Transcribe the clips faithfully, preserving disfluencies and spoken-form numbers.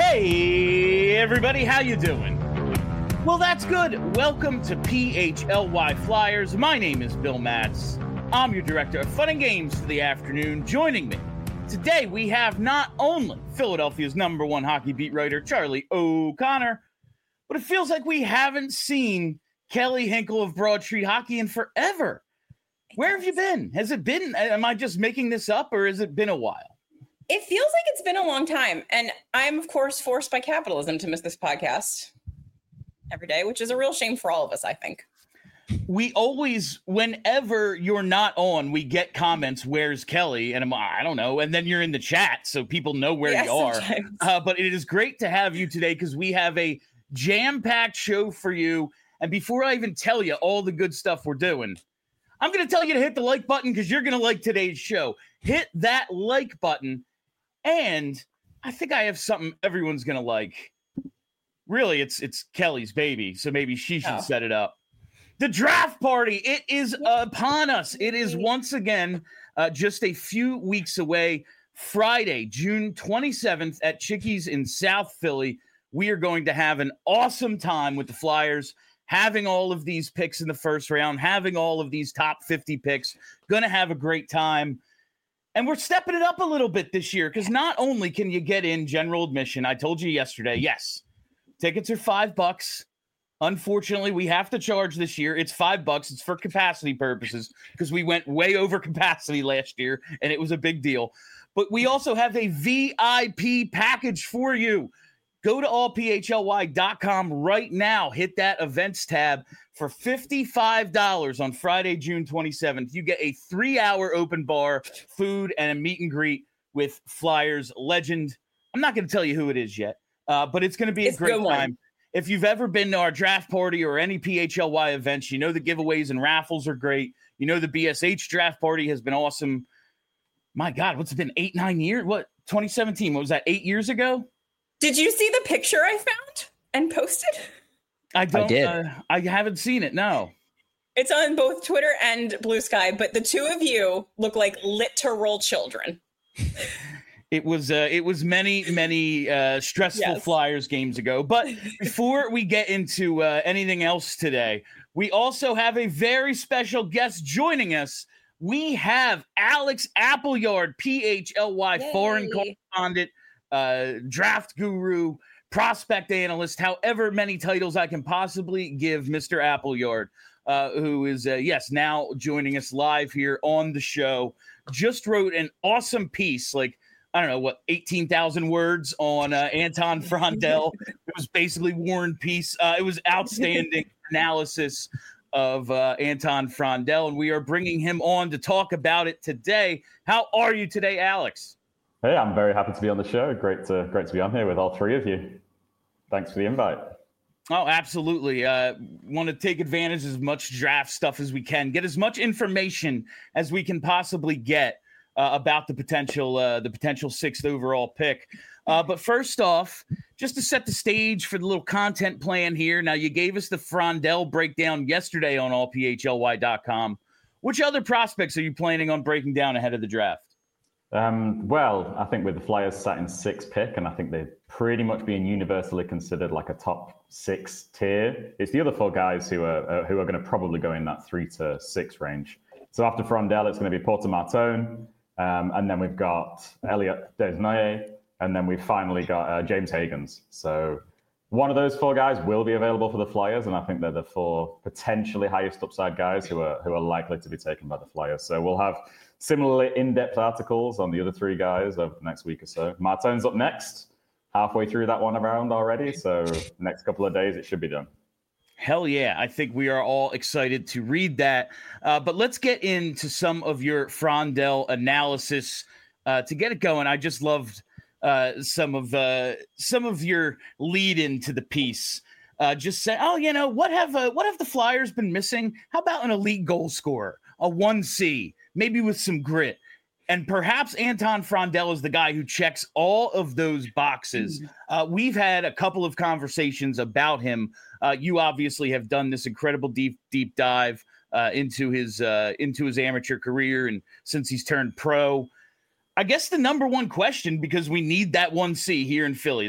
Hey, everybody, how you doing? Well, that's good. Welcome to P H L Y Flyers. My name is Bill Matz. I'm your director of fun and games for the afternoon. Joining me today, we have not only Philadelphia's number one hockey beat writer, Charlie O'Connor, but it feels like we haven't seen Kelly Hinkle of Broad Street Hockey in forever. Where have you been? Has it been, am I just making this up, or has it been a while? It feels like it's been a long time. And I'm, of course, forced by capitalism to miss this podcast every day, which is a real shame for all of us, I think. We always, whenever you're not on, we get comments, where's Kelly? And I'm, I don't know. And then you're in the chat, so people know where yeah, you are. Uh, but it is great to have you today because we have a jam-packed show for you. And before I even tell you all the good stuff we're doing, I'm going to tell you to hit the like button because you're going to like today's show. Hit that like button. And I think I have something everyone's going to like. Really, it's it's Kelly's baby, so maybe she should oh. set it up. The draft party, it is upon us. It is once again uh, just a few weeks away. Friday, June twenty-seventh at Chickies in South Philly. We are going to have an awesome time with the Flyers, having all of these picks in the first round, having all of these top fifty picks. Going to have a great time. And we're stepping it up a little bit this year because not only can you get in general admission, I told you yesterday, yes, tickets are five bucks. Unfortunately, we have to charge this year. It's five bucks. It's for capacity purposes because we went way over capacity last year and it was a big deal. But we also have a V I P package for you. Go to all p h l y dot com right now. Hit that events tab for fifty-five dollars on Friday, June twenty-seventh. You get a three-hour open bar, food, and a meet and greet with Flyers legend. I'm not going to tell you who it is yet, uh, but it's going to be it's a great time. If you've ever been to our draft party or any P H L Y events, you know the giveaways and raffles are great. You know the B S H draft party has been awesome. My God, what's it been, eight, nine years? What, twenty seventeen? What was that, eight years ago? Did you see the picture I found and posted? I don't. I did. Uh, I haven't seen it. No. It's on both Twitter and Blue Sky, but the two of you look like literal children. It was. Uh, it was many, many uh, stressful yes. Flyers games ago. But before we get into uh, anything else today, we also have a very special guest joining us. We have Alex Appleyard, P H L Y Yay. foreign correspondent, uh, draft guru, prospect analyst, however many titles I can possibly give Mister Appleyard, uh, who is, uh, yes, now joining us live here on the show. Just wrote an awesome piece, like, I don't know, what, eighteen thousand words on uh, Anton Frondell. It was basically War and Peace. Uh, it was outstanding analysis of uh, Anton Frondell, and we are bringing him on to talk about it today. How are you today, Alex? Hey, I'm very happy to be on the show. Great to great to be on here with all three of you. Thanks for the invite. Oh, absolutely. Uh, want to take advantage of as much draft stuff as we can, get as much information as we can possibly get uh, about the potential uh, the potential sixth overall pick. Uh, but first off, just to set the stage for the little content plan here. Now, you gave us the Frondell breakdown yesterday on all p h l y dot com. Which other prospects are you planning on breaking down ahead of the draft? Um, well, I think with the Flyers sat in sixth pick, and I think they're pretty much being universally considered like a top six tier. It's the other four guys who are uh, who are going to probably go in that three to six range. So after Frondell, it's going to be Porter Martone, um, and then we've got Elliot Desnoyers, and then we've finally got uh, James Hagens. So one of those four guys will be available for the Flyers, and I think they're the four potentially highest upside guys who are who are likely to be taken by the Flyers. So we'll have similarly in-depth articles on the other three guys over the next week or so. Martone's up next, halfway through that one around already. So next couple of days, it should be done. Hell yeah. I think we are all excited to read that. Uh, but let's get into some of your Frondell analysis. Uh, to get it going, I just loved uh, some of uh, some of your lead into the piece. Uh, just say, oh, you know, what have uh, what have the Flyers been missing? How about an elite goal scorer, a one C, maybe with some grit? And perhaps Anton Frondell is the guy who checks all of those boxes. Uh, we've had a couple of conversations about him. Uh, you obviously have done this incredible deep, deep dive uh, into his uh, into his amateur career, and since he's turned pro. I guess the number one question, because we need that one C here in Philly. That's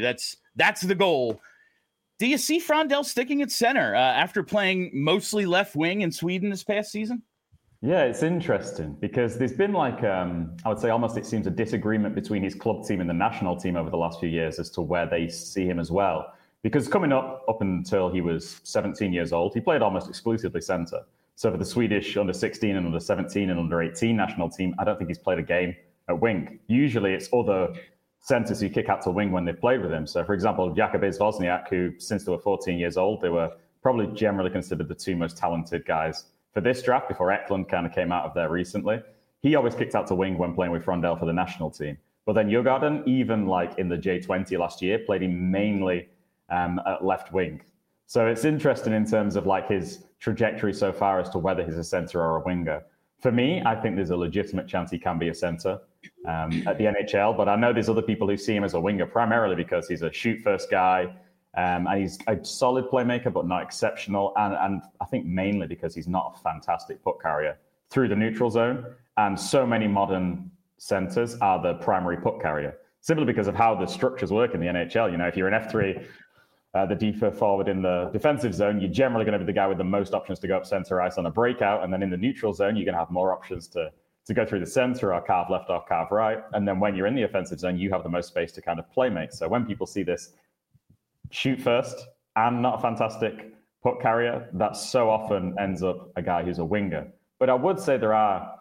That's the goal. Do you see Frondell sticking at center uh, after playing mostly left wing in Sweden this past season? Yeah, it's interesting because there's been like, um, I would say almost it seems a disagreement between his club team and the national team over the last few years as to where they see him as well. Because coming up, up until he was seventeen years old, he played almost exclusively centre. So for the Swedish under sixteen and under seventeen and under eighteen national team, I don't think he's played a game at wing. Usually it's other centres who kick out to wing when they've played with him. So for example, Jakubis Wozniak, who since they were fourteen years old, they were probably generally considered the two most talented guys for this draft before Eklund kind of came out of there recently. He always kicked out to wing when playing with Frondell for the national team. But then Djurgården, even like in the J twenty last year, played him mainly um, at left wing. So it's interesting in terms of like his trajectory so far as to whether he's a centre or a winger. For me, I think there's a legitimate chance he can be a centre um, at the N H L, but I know there's other people who see him as a winger primarily because he's a shoot-first guy, um, and he's a solid playmaker, but not exceptional, and, and I think mainly because he's not a fantastic puck carrier through the neutral zone, and so many modern centres are the primary puck carrier, simply because of how the structures work in the N H L. You know, if you're an F three, Uh, the deeper forward in the defensive zone, you're generally going to be the guy with the most options to go up center ice on a breakout. And then in the neutral zone, you're going to have more options to, to go through the center or carve left or carve right. And then when you're in the offensive zone, you have the most space to kind of play make. So when people see this shoot first and not a fantastic puck carrier, that so often ends up a guy who's a winger. But I would say there are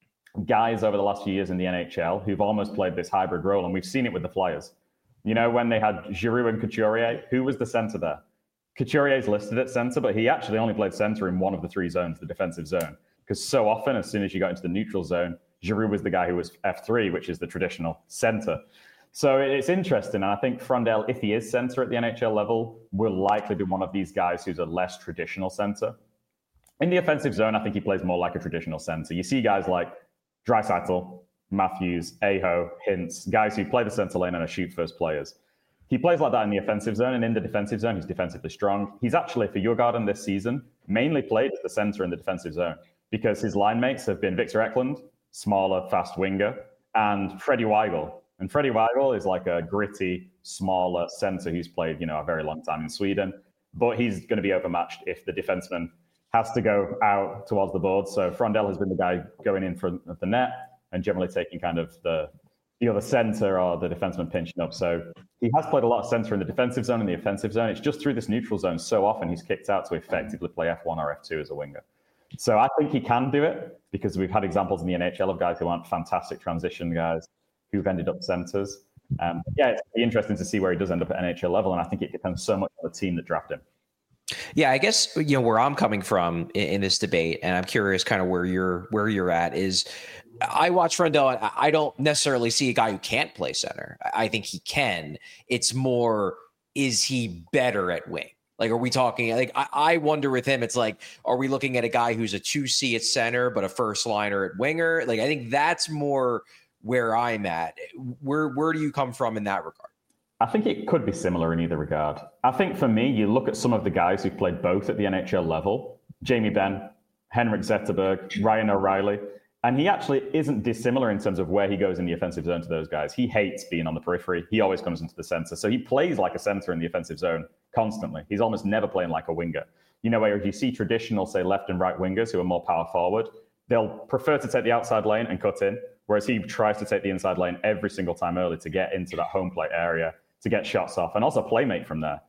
guys over the last few years in the N H L who've almost played this hybrid role. And we've seen it with the Flyers. You know, when they had Giroux and Couturier, who was the center there? Couturier's listed at center, but he actually only played center in one of the three zones, the defensive zone. Because so often, as soon as you got into the neutral zone, Giroux was the guy who was F three, which is the traditional center. So it's interesting. And I think Frondell, if he is center at the N H L level, will likely be one of these guys who's a less traditional center. In the offensive zone, I think he plays more like a traditional center. You see guys like Draisaitl, Matthews, Aho, Hintz, guys who play the center lane and are shoot-first players. He plays like that in the offensive zone, and in the defensive zone, he's defensively strong. He's actually, for Djurgården this season, mainly played as the center in the defensive zone because his line mates have been Victor Eklund, smaller, fast winger, and Freddie Weigl. And Freddie Weigl is like a gritty, smaller center who's played, you know, a very long time in Sweden, but he's going to be overmatched if the defenseman has to go out towards the board. So Frondell has been the guy going in front of the net and generally taking kind of the either the center or the defenseman pinching up. So he has played a lot of center in the defensive zone and the offensive zone. It's just through this neutral zone so often he's kicked out to effectively play F one or F two as a winger. So I think he can do it because we've had examples in the N H L of guys who aren't fantastic transition guys who've ended up centers. Um, yeah, it's interesting to see where he does end up at N H L level, and I think it depends so much on the team that drafted him. Yeah, I guess, you know, where I'm coming from in, in this debate, and I'm curious kind of where you're where you're at, is I watch Frondell, and I don't necessarily see a guy who can't play center. I think he can. It's more, is he better at wing? Like, are we talking, like, I, I wonder with him, it's like, are we looking at a guy who's a two C at center, but a first liner at winger? Like, I think that's more where I'm at. Where, where do you come from in that regard? I think it could be similar in either regard. I think for me, you look at some of the guys who've played both at the N H L level, Jamie Benn, Henrik Zetterberg, Ryan O'Reilly, and he actually isn't dissimilar in terms of where he goes in the offensive zone to those guys. He hates being on the periphery. He always comes into the center. So he plays like a center in the offensive zone constantly. He's almost never playing like a winger. You know, where if you see traditional, say, left and right wingers who are more power forward, they'll prefer to take the outside lane and cut in, whereas he tries to take the inside lane every single time early to get into that home plate area, to get shots off, and also playmate from there.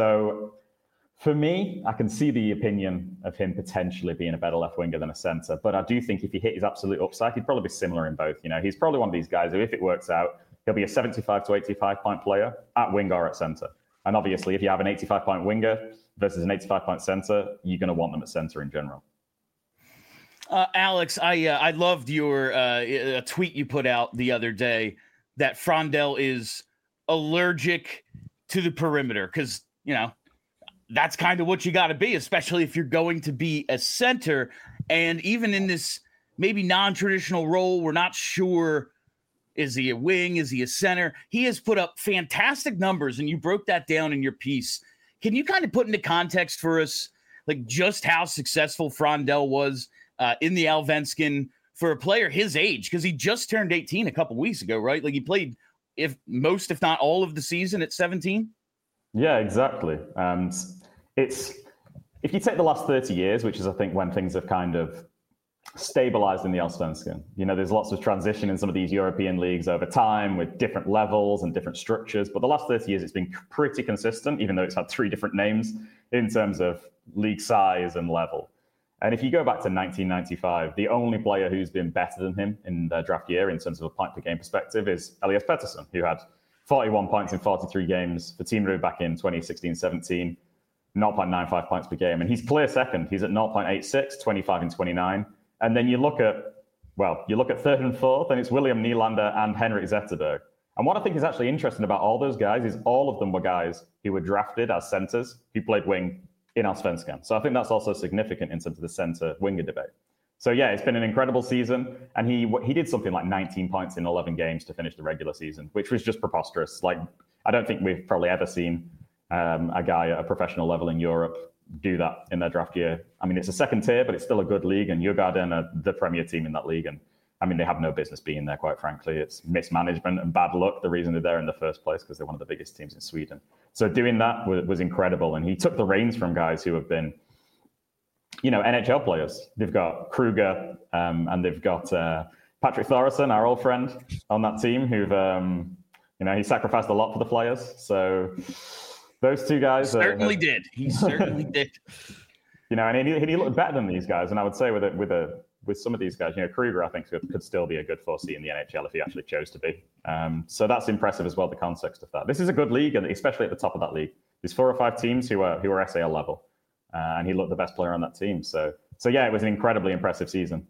So for me, I can see the opinion of him potentially being a better left winger than a center, but I do think if he hit his absolute upside, he'd probably be similar in both. You know, he's probably one of these guys who, if it works out, he'll be a seventy-five to eighty-five point player at wing or at center. And obviously, if you have an eighty-five point winger versus an eighty-five point center, you're going to want them at center in general. Uh, Alex, I uh, I loved your uh, a tweet you put out the other day that Frondell is allergic to the perimeter because, you know, that's kind of what you got to be, especially if you're going to be a center. And even in this maybe non-traditional role, we're not sure, is he a wing? Is he a center? He has put up fantastic numbers, and you broke that down in your piece. Can you kind of put into context for us, like, just how successful Frondell was uh, in the Allsvenskan for a player his age? Because he just turned eighteen a couple weeks ago, right? Like, he played if most, if not all of the season at seventeen. Yeah, exactly. And it's if you take the last thirty years, which is I think when things have kind of stabilized in the Allsvenskan. You know, there's lots of transition in some of these European leagues over time with different levels and different structures. But the last thirty years, it's been pretty consistent, even though it's had three different names in terms of league size and level. And if you go back to nineteen ninety-five, the only player who's been better than him in their draft year in terms of a point per game perspective is Elias Pettersson, who had forty-one points in forty-three games for Timrå back in twenty sixteen seventeen, zero point nine five points per game. And he's clear second. He's at zero point eight six, twenty-five and twenty-nine. And then you look at, well, you look at third and fourth, and it's William Nylander and Henrik Zetterberg. And what I think is actually interesting about all those guys is all of them were guys who were drafted as centers who played wing in Allsvenskan. So I think that's also significant in terms of the center-winger debate. So yeah, it's been an incredible season. And he he did something like nineteen points in eleven games to finish the regular season, which was just preposterous. Like, I don't think we've probably ever seen um, a guy at a professional level in Europe do that in their draft year. I mean, it's a second tier, but it's still a good league, and Djurgården are the premier team in that league. And I mean, they have no business being there, quite frankly. It's mismanagement and bad luck, the reason they're there in the first place, because they're one of the biggest teams in Sweden. So doing that was, was incredible. And he took the reins from guys who have been, you know, N H L players. They've got Kruger um, and they've got uh, Patrick Thoresen, our old friend on that team, who've, um, you know, he sacrificed a lot for the Flyers. So those two guys he certainly are, did. He certainly did. You know, and he, he looked better than these guys. And I would say with a, with a with some of these guys, you know, Kruger, I think could, could still be a good four C in the N H L if he actually chose to be. Um, so that's impressive as well. The context of that. This is a good league, and especially at the top of that league, there's four or five teams who are who are S A L level, uh, and he looked the best player on that team. So so yeah, it was an incredibly impressive season.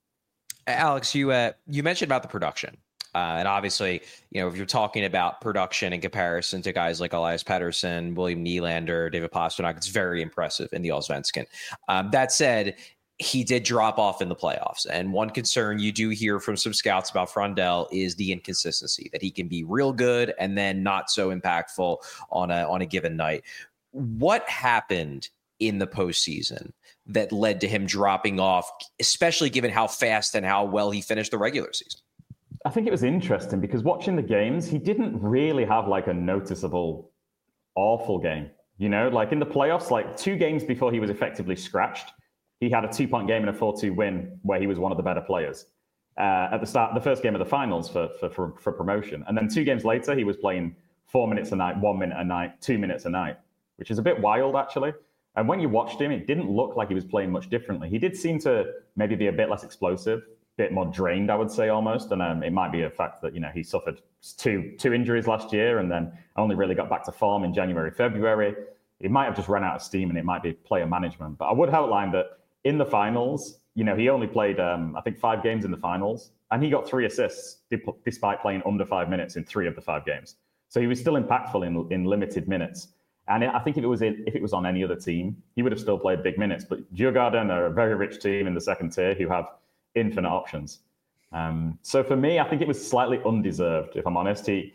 Alex, you uh, you mentioned about the production. Uh, and obviously, you know, if you're talking about production in comparison to guys like Elias Pettersson, William Nylander, David Pastrnak, it's very impressive in the Allsvenskan. Um, that said, he did drop off in the playoffs. And one concern you do hear from some scouts about Frondell is the inconsistency, that he can be real good and then not so impactful on a on a given night. What happened in the postseason that led to him dropping off, especially given how fast and how well he finished the regular season? I think it was interesting because watching the games, he didn't really have like a noticeable awful game. You know, like in the playoffs, like two games before he was effectively scratched, he had a two-point game and a four two win where he was one of the better players uh, at the start, the first game of the finals for, for for for promotion. And then two games later, he was playing four minutes a night, one minute a night, two minutes a night, which is a bit wild, actually. And when you watched him, it didn't look like he was playing much differently. He did seem to maybe be a bit less explosive, bit more drained, I would say, almost. And um, it might be a fact that, you know, he suffered two two injuries last year and then only really got back to form in January, February. He might have just run out of steam, and it might be player management. But I would outline that in the finals, you know, he only played, um, I think, five games in the finals, and he got three assists despite playing under five minutes in three of the five games. So he was still impactful in in limited minutes. And I think if it was in, if it was on any other team, he would have still played big minutes. But Djurgården are a very rich team in the second tier who have infinite options. Um, so for me, I think it was slightly undeserved, if I'm honest. He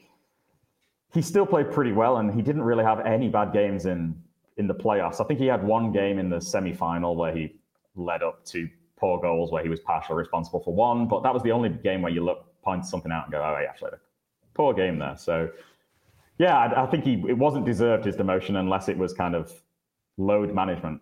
he still played pretty well, and he didn't really have any bad games in in the playoffs. I think he had one game in the semi-final where he led up to poor goals, where he was partially responsible for one. But that was the only game where you look, point something out and go, oh, yeah, actually, poor game there. So yeah, I, I think he it wasn't deserved, his demotion, unless it was kind of load management.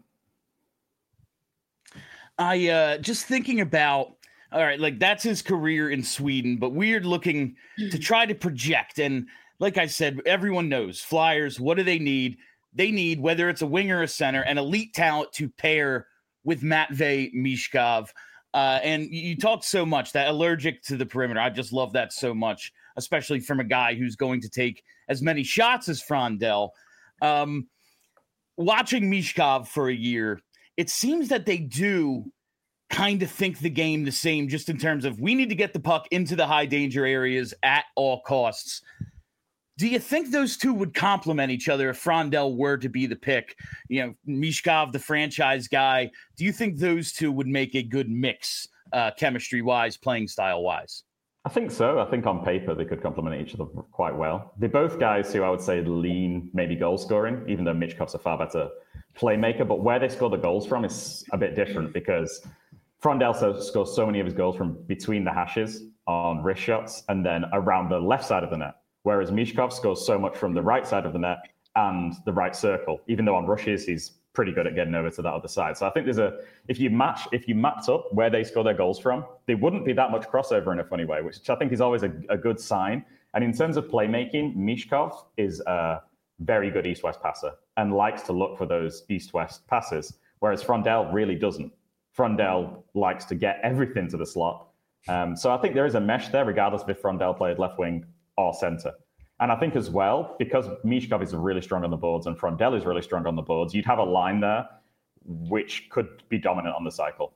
I uh, just thinking about, all right, like that's his career in Sweden, but weird looking to try to project. And like I said, everyone knows Flyers, what do they need? They need, whether it's a winger or a center, an elite talent to pair with Matvei Michkov. Uh, and you talked so much that allergic to the perimeter. I just love that so much, especially from a guy who's going to take as many shots as Frondell. Um, watching Michkov for a year, it seems that they do kind of think the game the same, just in terms of we need to get the puck into the high danger areas at all costs. Do you think those two would complement each other if Frondell were to be the pick? You know, Michkov, the franchise guy. Do you think those two would make a good mix, uh, chemistry-wise, playing style-wise? I think so. I think on paper they could complement each other quite well. They're both guys who I would say lean maybe goal scoring, even though Michkov's a far better playmaker. But where they score the goals from is a bit different because Frondell scores so many of his goals from between the hashes on wrist shots and then around the left side of the net. Whereas Michkov scores so much from the right side of the net and the right circle. Even though on rushes, he's pretty good at getting over to that other side. So I think there's a, if you match, if you mapped up where they score their goals from, there wouldn't be that much crossover in a funny way, which I think is always a, a good sign. And in terms of playmaking, Michkov is a very good east-west passer and likes to look for those east-west passes, whereas Frondell really doesn't. Frondell likes to get everything to the slot. Um, so I think there is a mesh there, regardless of if Frondell played left wing or center. And I think as well, because Michkov is really strong on the boards and Frondell is really strong on the boards, you'd have a line there which could be dominant on the cycle.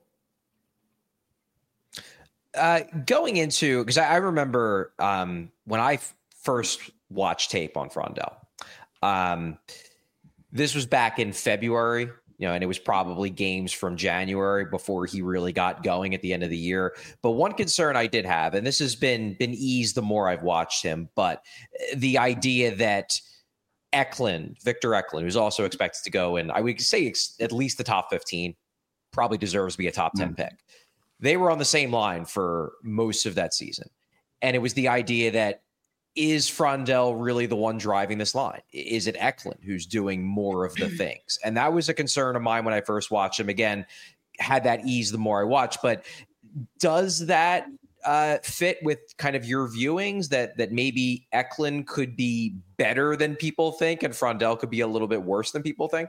Uh, going into, because I, I remember um, when I f- first watched tape on Frondell, um, this was back in February. You know, and it was probably games from January before he really got going at the end of the year. But one concern I did have, and this has been been eased the more I've watched him, but the idea that Eklund, Victor Eklund, who's also expected to go in, I would say ex- at least the top fifteen, probably deserves to be a top ten mm. pick. They were on the same line for most of that season. And it was the idea that, is Frondell really the one driving this line? Is it Eklund who's doing more of the things? And that was a concern of mine when I first watched him. Again, had that ease the more I watched. But does that uh, fit with kind of your viewings that that maybe Eklund could be better than people think and Frondell could be a little bit worse than people think?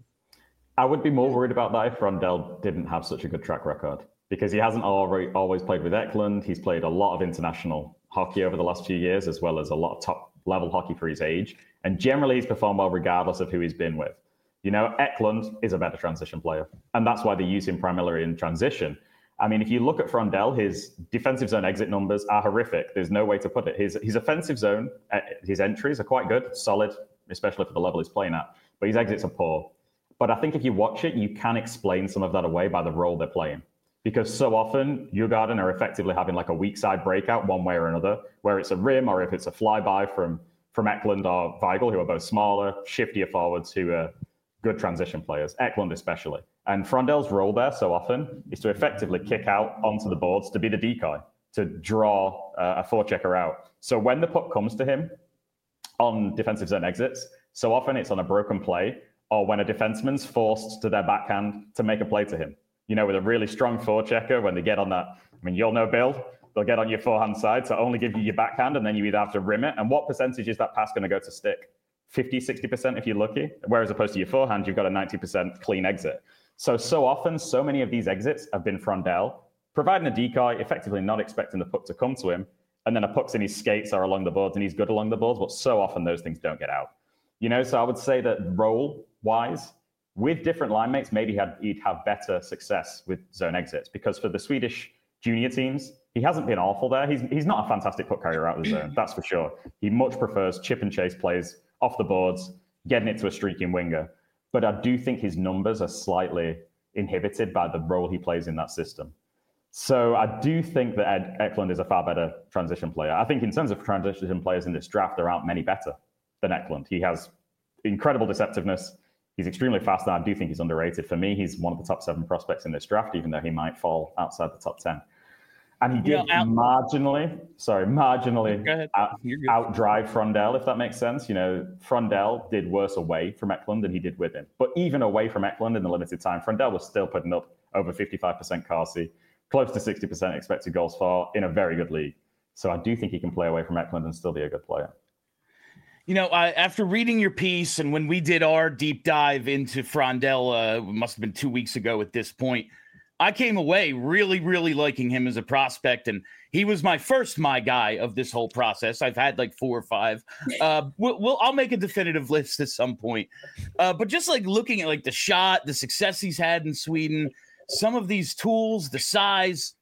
I would be more worried about that if Frondell didn't have such a good track record, because he hasn't already, always played with Eklund. He's played a lot of international hockey over the last few years, as well as a lot of top level hockey for his age. And generally he's performed well regardless of who he's been with. You know, Eklund is a better transition player. And that's why they use him primarily in transition. I mean, if you look at Frondell, his defensive zone exit numbers are horrific. There's no way to put it. His, his offensive zone, his entries are quite good, solid, especially for the level he's playing at. But his exits are poor. But I think if you watch it, you can explain some of that away by the role they're playing. Because so often, Djurgården are effectively having like a weak side breakout one way or another, where it's a rim or if it's a flyby from, from Eklund or Weigl, who are both smaller, shiftier forwards who are good transition players, Eklund especially. And Frondell's role there so often is to effectively kick out onto the boards to be the decoy, to draw uh, a forechecker out. So when the puck comes to him on defensive zone exits, so often it's on a broken play or when a defenseman's forced to their backhand to make a play to him. You know, with a really strong forechecker, when they get on that, I mean, you'll know, Bill, they'll get on your forehand side to only give you your backhand, and then you either have to rim it. And what percentage is that pass going to go to stick? fifty, sixty percent if you're lucky. Whereas opposed to your forehand, you've got a ninety percent clean exit. So, so often, so many of these exits have been Frondell, providing a decoy, effectively not expecting the puck to come to him. And then a puck's in his skates or along the boards, and he's good along the boards. But so often, those things don't get out. You know, so I would say that role-wise, with different line mates, maybe he'd, he'd have better success with zone exits, because for the Swedish junior teams, he hasn't been awful there. He's he's not a fantastic puck carrier out of the zone, that's for sure. He much prefers chip and chase plays off the boards, getting it to a streaking winger. But I do think his numbers are slightly inhibited by the role he plays in that system. So I do think that Ed Eklund is a far better transition player. I think in terms of transition players in this draft, there aren't many better than Eklund. He has incredible deceptiveness. He's extremely fast, and I do think he's underrated. For me, he's one of the top seven prospects in this draft, even though he might fall outside the top ten. And he did you know, out- marginally, sorry, marginally out, outdrive Frondell, if that makes sense. You know, Frondell did worse away from Eklund than he did with him. But even away from Eklund in the limited time, Frondell was still putting up over fifty-five percent Corsi, close to sixty percent expected goals for in a very good league. So I do think he can play away from Eklund and still be a good player. You know, I, after reading your piece and when we did our deep dive into Frondell, uh, must have been two weeks ago at this point, I came away really, really liking him as a prospect. And he was my first my guy of this whole process. I've had like four or five. Uh, we'll, we'll I'll make a definitive list at some point. Uh, but just like looking at like the shot, the success he's had in Sweden, some of these tools, the size,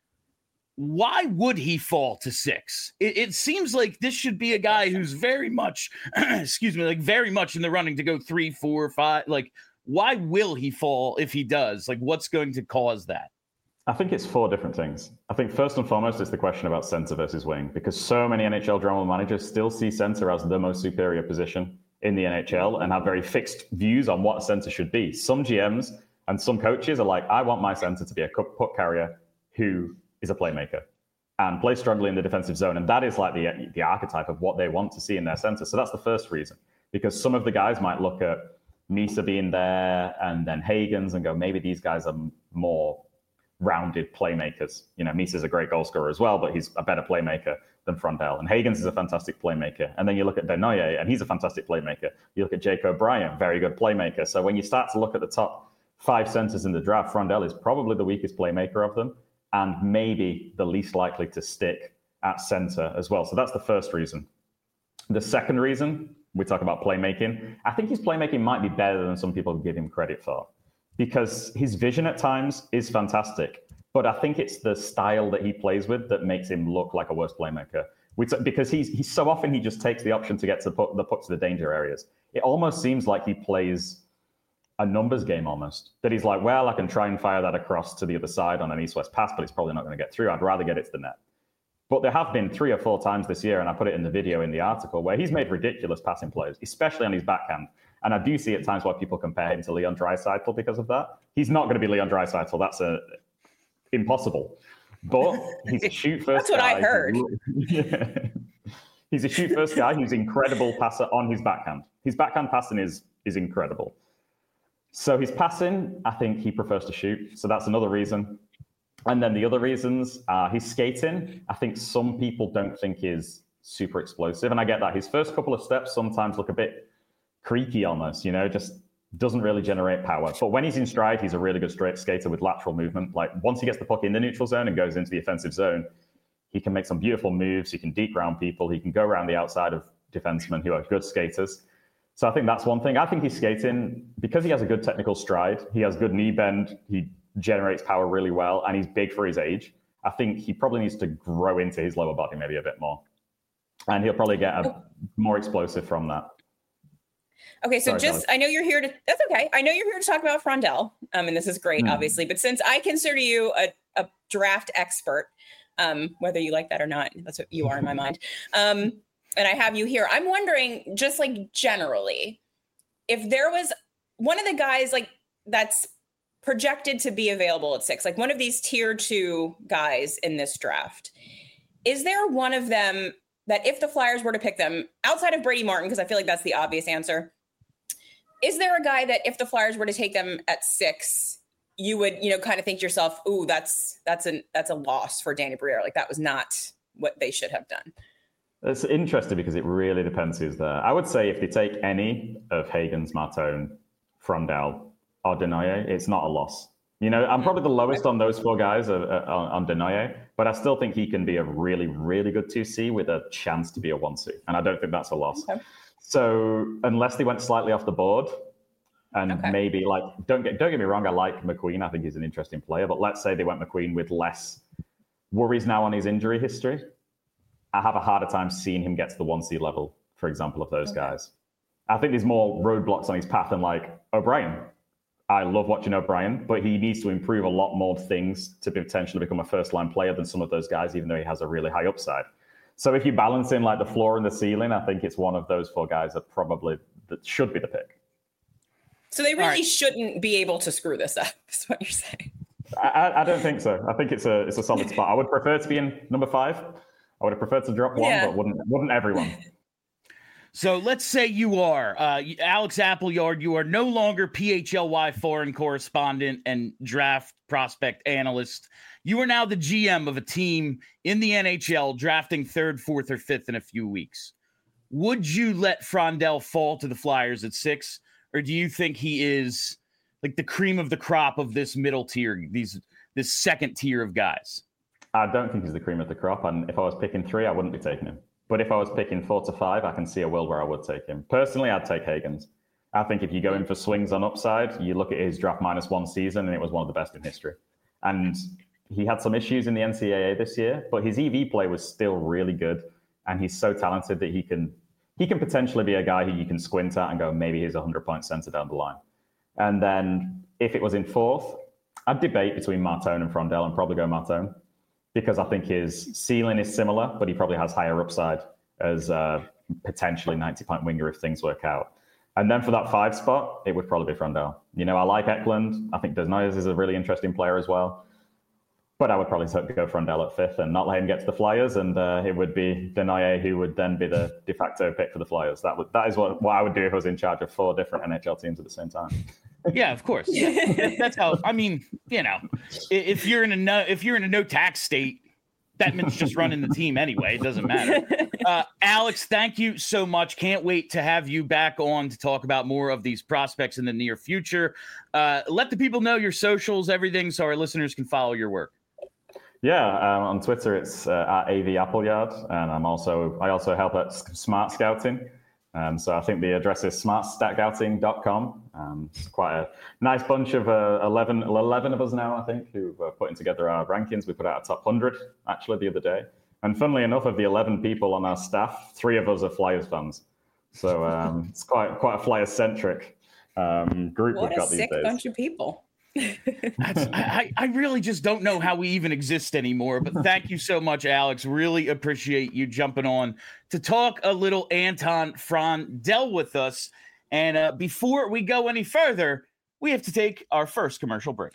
why would he fall to six? It, it seems like this should be a guy who's very much, excuse me, like very much in the running to go three, four, five. Like, why will he fall if he does? Like, what's going to cause that? I think it's four different things. I think first and foremost, it's the question about center versus wing, because so many N H L general managers still see center as the most superior position in the N H L and have very fixed views on what a center should be. Some G Ms and some coaches are like, I want my center to be a puck carrier who is a playmaker and plays strongly in the defensive zone. And that is like the, the archetype of what they want to see in their center. So that's the first reason. because some of the guys might look at Misa being there and then Hagens and go, maybe these guys are more rounded playmakers. You know, Misa's a great goal scorer as well, but he's a better playmaker than Frondell. And Hagens is a fantastic playmaker. And then you look at Denoye, and he's a fantastic playmaker. You look at Jake O'Brien, very good playmaker. So when you start to look at the top five centers in the draft, Frondell is probably the weakest playmaker of them, and maybe the least likely to stick at center as well. So that's the first reason. The second reason, we talk about playmaking, I think his playmaking might be better than some people give him credit for, because his vision at times is fantastic. But I think it's the style that he plays with that makes him look like a worse playmaker. Because he's he's so often he just takes the option to get to put the puck to the danger areas. It almost seems like he plays a numbers game almost. That he's like, well, I can try and fire that across to the other side on an east-west pass, but it's probably not going to get through. I'd rather get it to the net. But there have been three or four times this year, and I put it in the video in the article, where he's made ridiculous passing plays, especially on his backhand. And I do see at times why people compare him to Leon Draisaitl because of that. He's not going to be Leon Draisaitl. That's a, impossible. But he's a shoot first That's what guy. I heard. Yeah. He's a shoot first guy who's incredible passer on his backhand. His backhand passing is is incredible. So his passing, I think he prefers to shoot. So that's another reason. And then the other reasons are his skating. I think some people don't think is super explosive. And I get that. His first couple of steps sometimes look a bit creaky almost, you know, just doesn't really generate power. But when he's in stride, he's a really good straight skater with lateral movement. Like once he gets the puck in the neutral zone and goes into the offensive zone, he can make some beautiful moves. He can deep ground people. He can go around the outside of defensemen who are good skaters. So I think that's one thing. I think he's skating because he has a good technical stride. He has good knee bend. He generates power really well, and he's big for his age. I think he probably needs to grow into his lower body maybe a bit more. And he'll probably get a, more explosive from that. Okay, so Sorry, just, Alex. I know you're here to, that's okay. I know you're here to talk about Frondell, um, and this is great, mm. obviously. But since I consider you a, a draft expert, um, whether you like that or not, that's what you are in my mind. Um, and I have you here. I'm wondering, just like generally, if there was one of the guys like that's projected to be available at six, like one of these tier two guys in this draft, is there one of them that if the Flyers were to pick them outside of Brady Martin, because I feel like that's the obvious answer, is there a guy that if the Flyers were to take them at six, you would, you know, kind of think to yourself, ooh, that's that's an that's a loss for Danny Briere. Like that was not what they should have done. It's interesting because it really depends who's there. I would say if they take any of Hagens, Martone, Frondell, or Denoye, it's not a loss. You know, I'm probably the lowest on those four guys uh, uh, on, on Denoye, but I still think he can be a really, really good two C with a chance to be a one C. And I don't think that's a loss. Okay. So unless they went slightly off the board and okay. maybe like, don't get, don't get me wrong, I like McQueen. I think he's an interesting player, but let's say they went McQueen with less worries now on his injury history. I have a harder time seeing him get to the one C level, for example, of those okay. guys. I think there's more roadblocks on his path than like O'Brien. I love watching O'Brien, but he needs to improve a lot more things to potentially become a first-line player than some of those guys, even though he has a really high upside. So if you balance in like the floor and the ceiling, I think it's one of those four guys that probably that should be the pick. So they really right. shouldn't be able to screw this up, is what you're saying. I, I don't think so. I think it's a it's a solid spot. I would prefer to be in number five. I would have preferred to drop one, yeah. but wouldn't wouldn't everyone? So let's say you are uh, Alex Appleyard. You are no longer P H L Y foreign correspondent and draft prospect analyst. You are now the G M of a team in the N H L drafting third, fourth, or fifth in a few weeks. Would you let Frondell fall to the Flyers at six, or do you think he is like the cream of the crop of this middle tier, these this second tier of guys? I don't think he's the cream of the crop, and if I was picking three, I wouldn't be taking him. But if I was picking four to five, I can see a world where I would take him. Personally, I'd take Hagens. I think if you go in for swings on upside, you look at his draft minus one season, and it was one of the best in history. And he had some issues in the N C double A this year, but his E V play was still really good. And he's so talented that he can he can potentially be a guy who you can squint at and go, maybe he's a hundred-point center down the line. And then if it was in fourth, I'd debate between Martone and Frondell and probably go Martone, because I think his ceiling is similar, but he probably has higher upside as a potentially ninety-point winger if things work out. And then for that five spot, it would probably be Frondell. You know, I like Eklund. I think Desnoyers is a really interesting player as well. but I would probably go Frondell at fifth and not let him get to the Flyers, and uh, it would be Denaye who would then be the de facto pick for the Flyers. That would that is what, what I would do if I was in charge of four different N H L teams at the same time. Yeah, of course. Yeah. That's how. I mean, you know, if you're in a no, if you're in a no tax state, that means just running the team anyway. It doesn't matter. Uh, Alex, thank you so much. Can't wait to have you back on to talk about more of these prospects in the near future. Uh, let the people know your socials, everything, so our listeners can follow your work. Yeah, um, on Twitter it's uh, at A V Appleyard, and I'm also I also help at Smart Scouting. Um, so I think the address is smart scouting dot com. Um, it's quite a nice bunch of uh, eleven, eleven of us now, I think, who are putting together our rankings. We put out a top one hundred actually the other day. And funnily enough, of the eleven people on our staff, three of us are Flyers fans. So um, it's quite quite a Flyers-centric um, group what we've got a these sick days. bunch of people. That's, I, I really just don't know how we even exist anymore. But thank you so much, Alex. Really appreciate you jumping on to talk a little Anton Frondell with us. And uh, before we go any further, we have to take our first commercial break.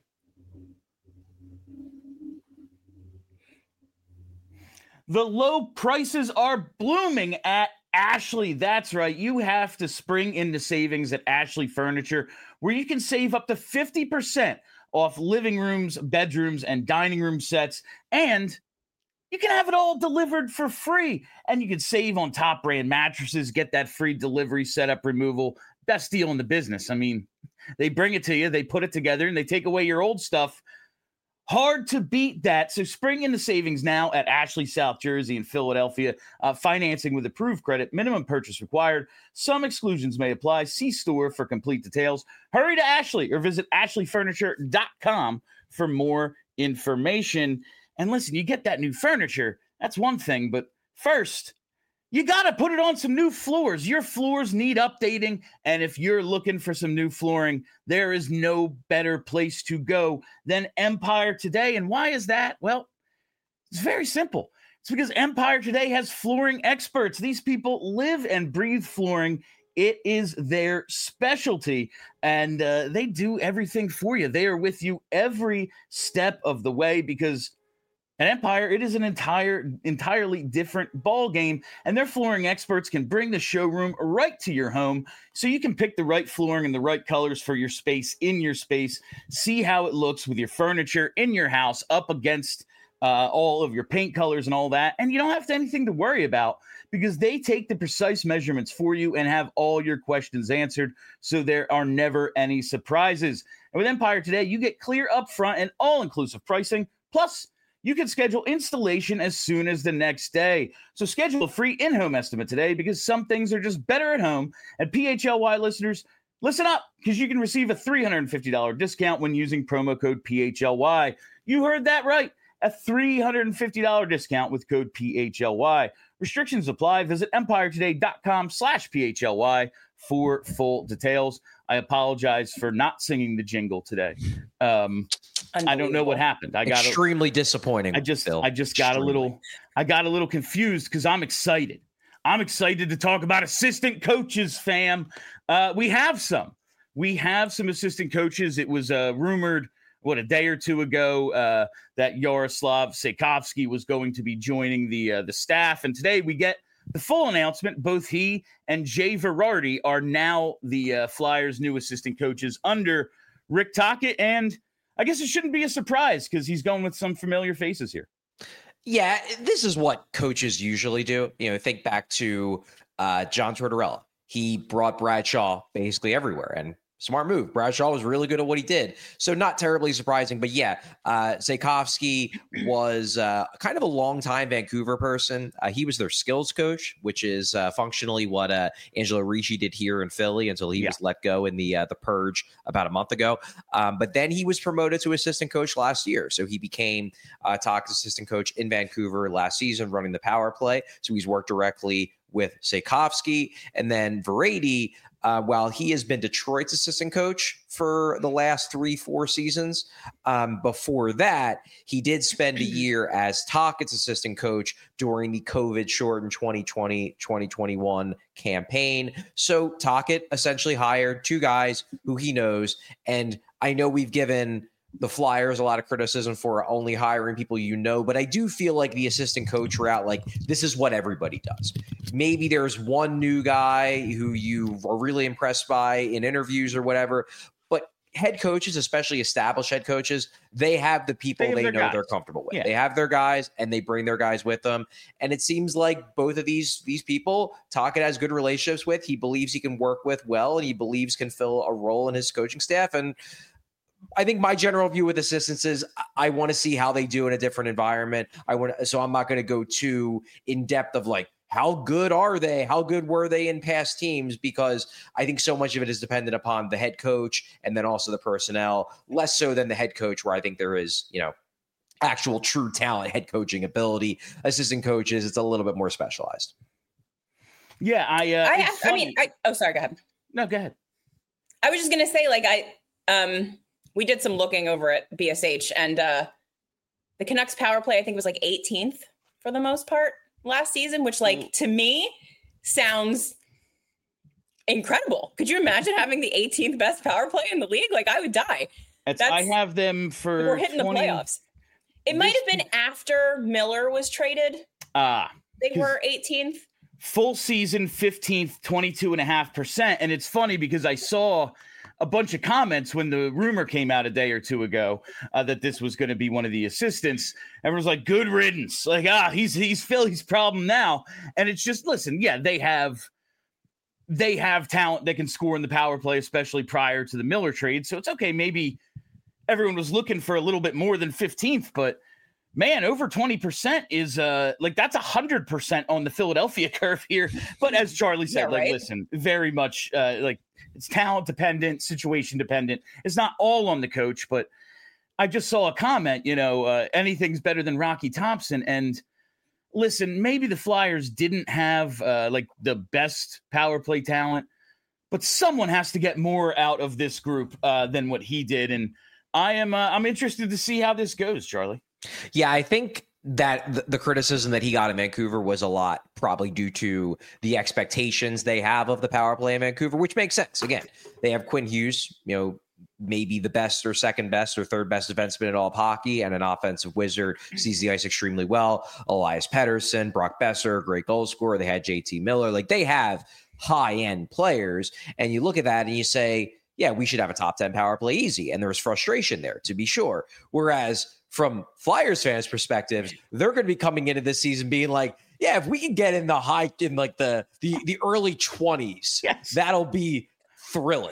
The low prices are blooming at Ashley. That's right. You have to spring into savings at Ashley Furniture, where you can save up to fifty percent off living rooms, bedrooms, and dining room sets. And you can have it all delivered for free. And you can save on top brand mattresses, get that free delivery setup removal. Best deal in the business. I mean, they bring it to you, they put it together, and they take away your old stuff. Hard to beat that. So spring into savings now at Ashley, South Jersey, and Philadelphia. Uh, financing with approved credit. Minimum purchase required. Some exclusions may apply. See store for complete details. Hurry to Ashley or visit ashley furniture dot com for more information. And listen, you get that new furniture. That's one thing. But first, you got to put it on some new floors. Your floors need updating. And if you're looking for some new flooring, there is no better place to go than Empire Today. And why is that? Well, it's very simple. It's because Empire Today has flooring experts. These people live and breathe flooring. It is their specialty, and uh, they do everything for you. They are with you every step of the way, because at Empire, it is an entire, entirely different ball game, and their flooring experts can bring the showroom right to your home, so you can pick the right flooring and the right colors for your space in your space. See how it looks with your furniture in your house up against uh, all of your paint colors and all that, and you don't have to anything to worry about, because they take the precise measurements for you and have all your questions answered, so there are never any surprises. And with Empire Today, you get clear upfront and all-inclusive pricing, plus you can schedule installation as soon as the next day. So schedule a free in-home estimate today, because some things are just better at home. And P H L Y listeners, listen up, because you can receive a three hundred fifty dollars discount when using promo code P H L Y. You heard that right, a three hundred fifty dollars discount with code P H L Y. Restrictions apply. Visit empire today dot com slash P H L Y for full details. I apologize for not singing the jingle today. Um, I don't know what happened. I got extremely a, disappointing. I just, Phil. I just got extremely. a little, I got a little confused because I'm excited. I'm excited to talk about assistant coaches, fam. Uh, we have some, we have some assistant coaches. It was uh, rumored, what, a day or two ago, uh, that Yaroslav Sejkovsky was going to be joining the uh, the staff, and today we get the full announcement. Both he and Jay Verardi are now the uh, Flyers' new assistant coaches under Rick Tocchet, and I guess it shouldn't be a surprise because he's going with some familiar faces here. Yeah, this is what coaches usually do. You know, think back to uh, John Tortorella. He brought Bradshaw basically everywhere, and smart move. Bradshaw was really good at what he did. So not terribly surprising, but yeah, uh, Sejkovsky was uh, kind of a long-time Vancouver person. Uh, he was their skills coach, which is uh, functionally what uh, Angelo Ricci did here in Philly until he yeah. was let go in the uh, the purge about a month ago. Um, but then he was promoted to assistant coach last year. So he became uh, Tocchet's assistant coach in Vancouver last season, running the power play. So he's worked directly with Sejkovsky. And then Verardi, Uh, while he has been Detroit's assistant coach for the last three, four seasons, um, before that, he did spend a year as Tocchet's assistant coach during the COVID-shortened twenty twenty twenty twenty-one campaign. So Tocchet essentially hired two guys who he knows. And I know we've given the Flyers, a lot of criticism for only hiring people you know, but I do feel like the assistant coach route, like this is what everybody does. Maybe there's one new guy who you are really impressed by in interviews or whatever, but head coaches, especially established head coaches, they have the people They they, have their know guys. they're comfortable with. Yeah. They have their guys and they bring their guys with them. And it seems like both of these these people, Tocchet has good relationships with. He believes he can work with well, and he believes can fill a role in his coaching staff. And I think my general view with assistants is I, I want to see how they do in a different environment. I want so I'm not going to go too in depth of like, how good are they? How good were they in past teams? Because I think so much of it is dependent upon the head coach and then also the personnel, less so than the head coach, where I think there is, you know, actual true talent, head coaching ability. Assistant coaches, it's a little bit more specialized. Yeah, I. Uh, I, it's have, I mean, funny- I, oh, sorry, go ahead. no, go ahead. I was just gonna say, like, I um, we did some looking over at B S H, and uh, the Canucks power play, I think, was like eighteenth for the most part last season, which, like, to me, sounds incredible. Could you imagine having the eighteenth best power play in the league? Like, I would die. It's, That's- I have them for. We're hitting twenty the playoffs. It might this- have been after Miller was traded. Ah, They 'cause- were eighteenth. full season fifteenth, twenty-two and a half percent. And it's funny because I saw a bunch of comments when the rumor came out a day or two ago uh, that this was going to be one of the assistants. Everyone's like, good riddance. Like, ah, he's, he's Philly's problem now. And it's just, listen, yeah, they have, they have talent that can score in the power play, especially prior to the Miller trade. So it's okay. Maybe everyone was looking for a little bit more than fifteenth, but man, over twenty percent is uh like that's a hundred percent on the Philadelphia curve here. But as Charlie said, Yeah, like, right? listen, very much uh like it's talent dependent, situation dependent. It's not all on the coach, but I just saw a comment, you know, uh, anything's better than Rocky Thompson. And listen, maybe the Flyers didn't have uh like the best power play talent, but someone has to get more out of this group uh than what he did. And I am uh, I'm interested to see how this goes, Charlie. Yeah, I think that the, the criticism that he got in Vancouver was a lot probably due to the expectations they have of the power play in Vancouver, which makes sense. Again, they have Quinn Hughes, you know, maybe the best or second best or third best defenseman in all of hockey, and an offensive wizard, sees the ice extremely well. Elias Pettersson, Brock Besser, great goal scorer. They had J T Miller. Like, they have high-end players. And you look at that and you say, yeah, we should have a top ten power play easy. And there's frustration there, to be sure. Whereas from Flyers fans' perspectives, they're going to be coming into this season being like, yeah, if we can get in the high, in like the the, the early twenties, Yes. that'll be thrilling.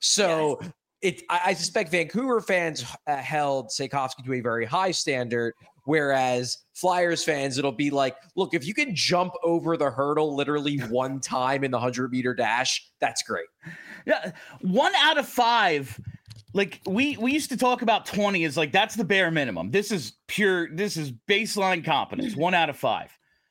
So Yes. it, I, I suspect Vancouver fans uh, held Sejkovsky to a very high standard, whereas Flyers fans, it'll be like, look, if you can jump over the hurdle literally one time in the hundred meter dash, that's great. Yeah, one out of five. Like we we used to talk about twenty as like that's the bare minimum. This is pure. This is baseline competence. One out of five.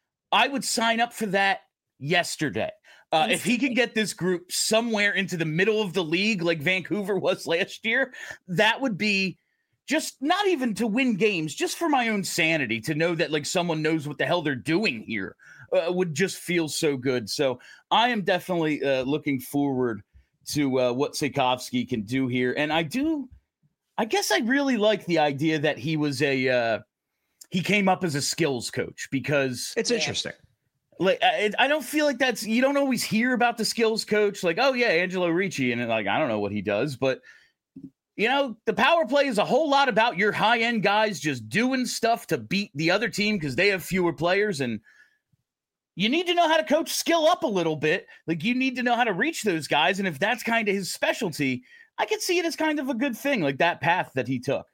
I would sign up for that yesterday. Uh, if he could get this group somewhere into the middle of the league like Vancouver was last year, that would be just not even to win games, just for my own sanity, to know that like someone knows what the hell they're doing here uh, would just feel so good. So I am definitely uh, looking forward to uh, what Sejkovsky can do here. And I do, I guess I really like the idea that he was a, uh, he came up as a skills coach, because It's interesting. like, I, I don't feel like that's, you don't always hear about the skills coach. Like, oh yeah, Angelo Ricci. And like, I don't know what he does, but you know, the power play is a whole lot about your high end guys just doing stuff to beat the other team because they have fewer players. And you need to know how to coach skill up a little bit. Like, you need to know how to reach those guys. And if that's kind of his specialty, I can see it as kind of a good thing, like that path that he took.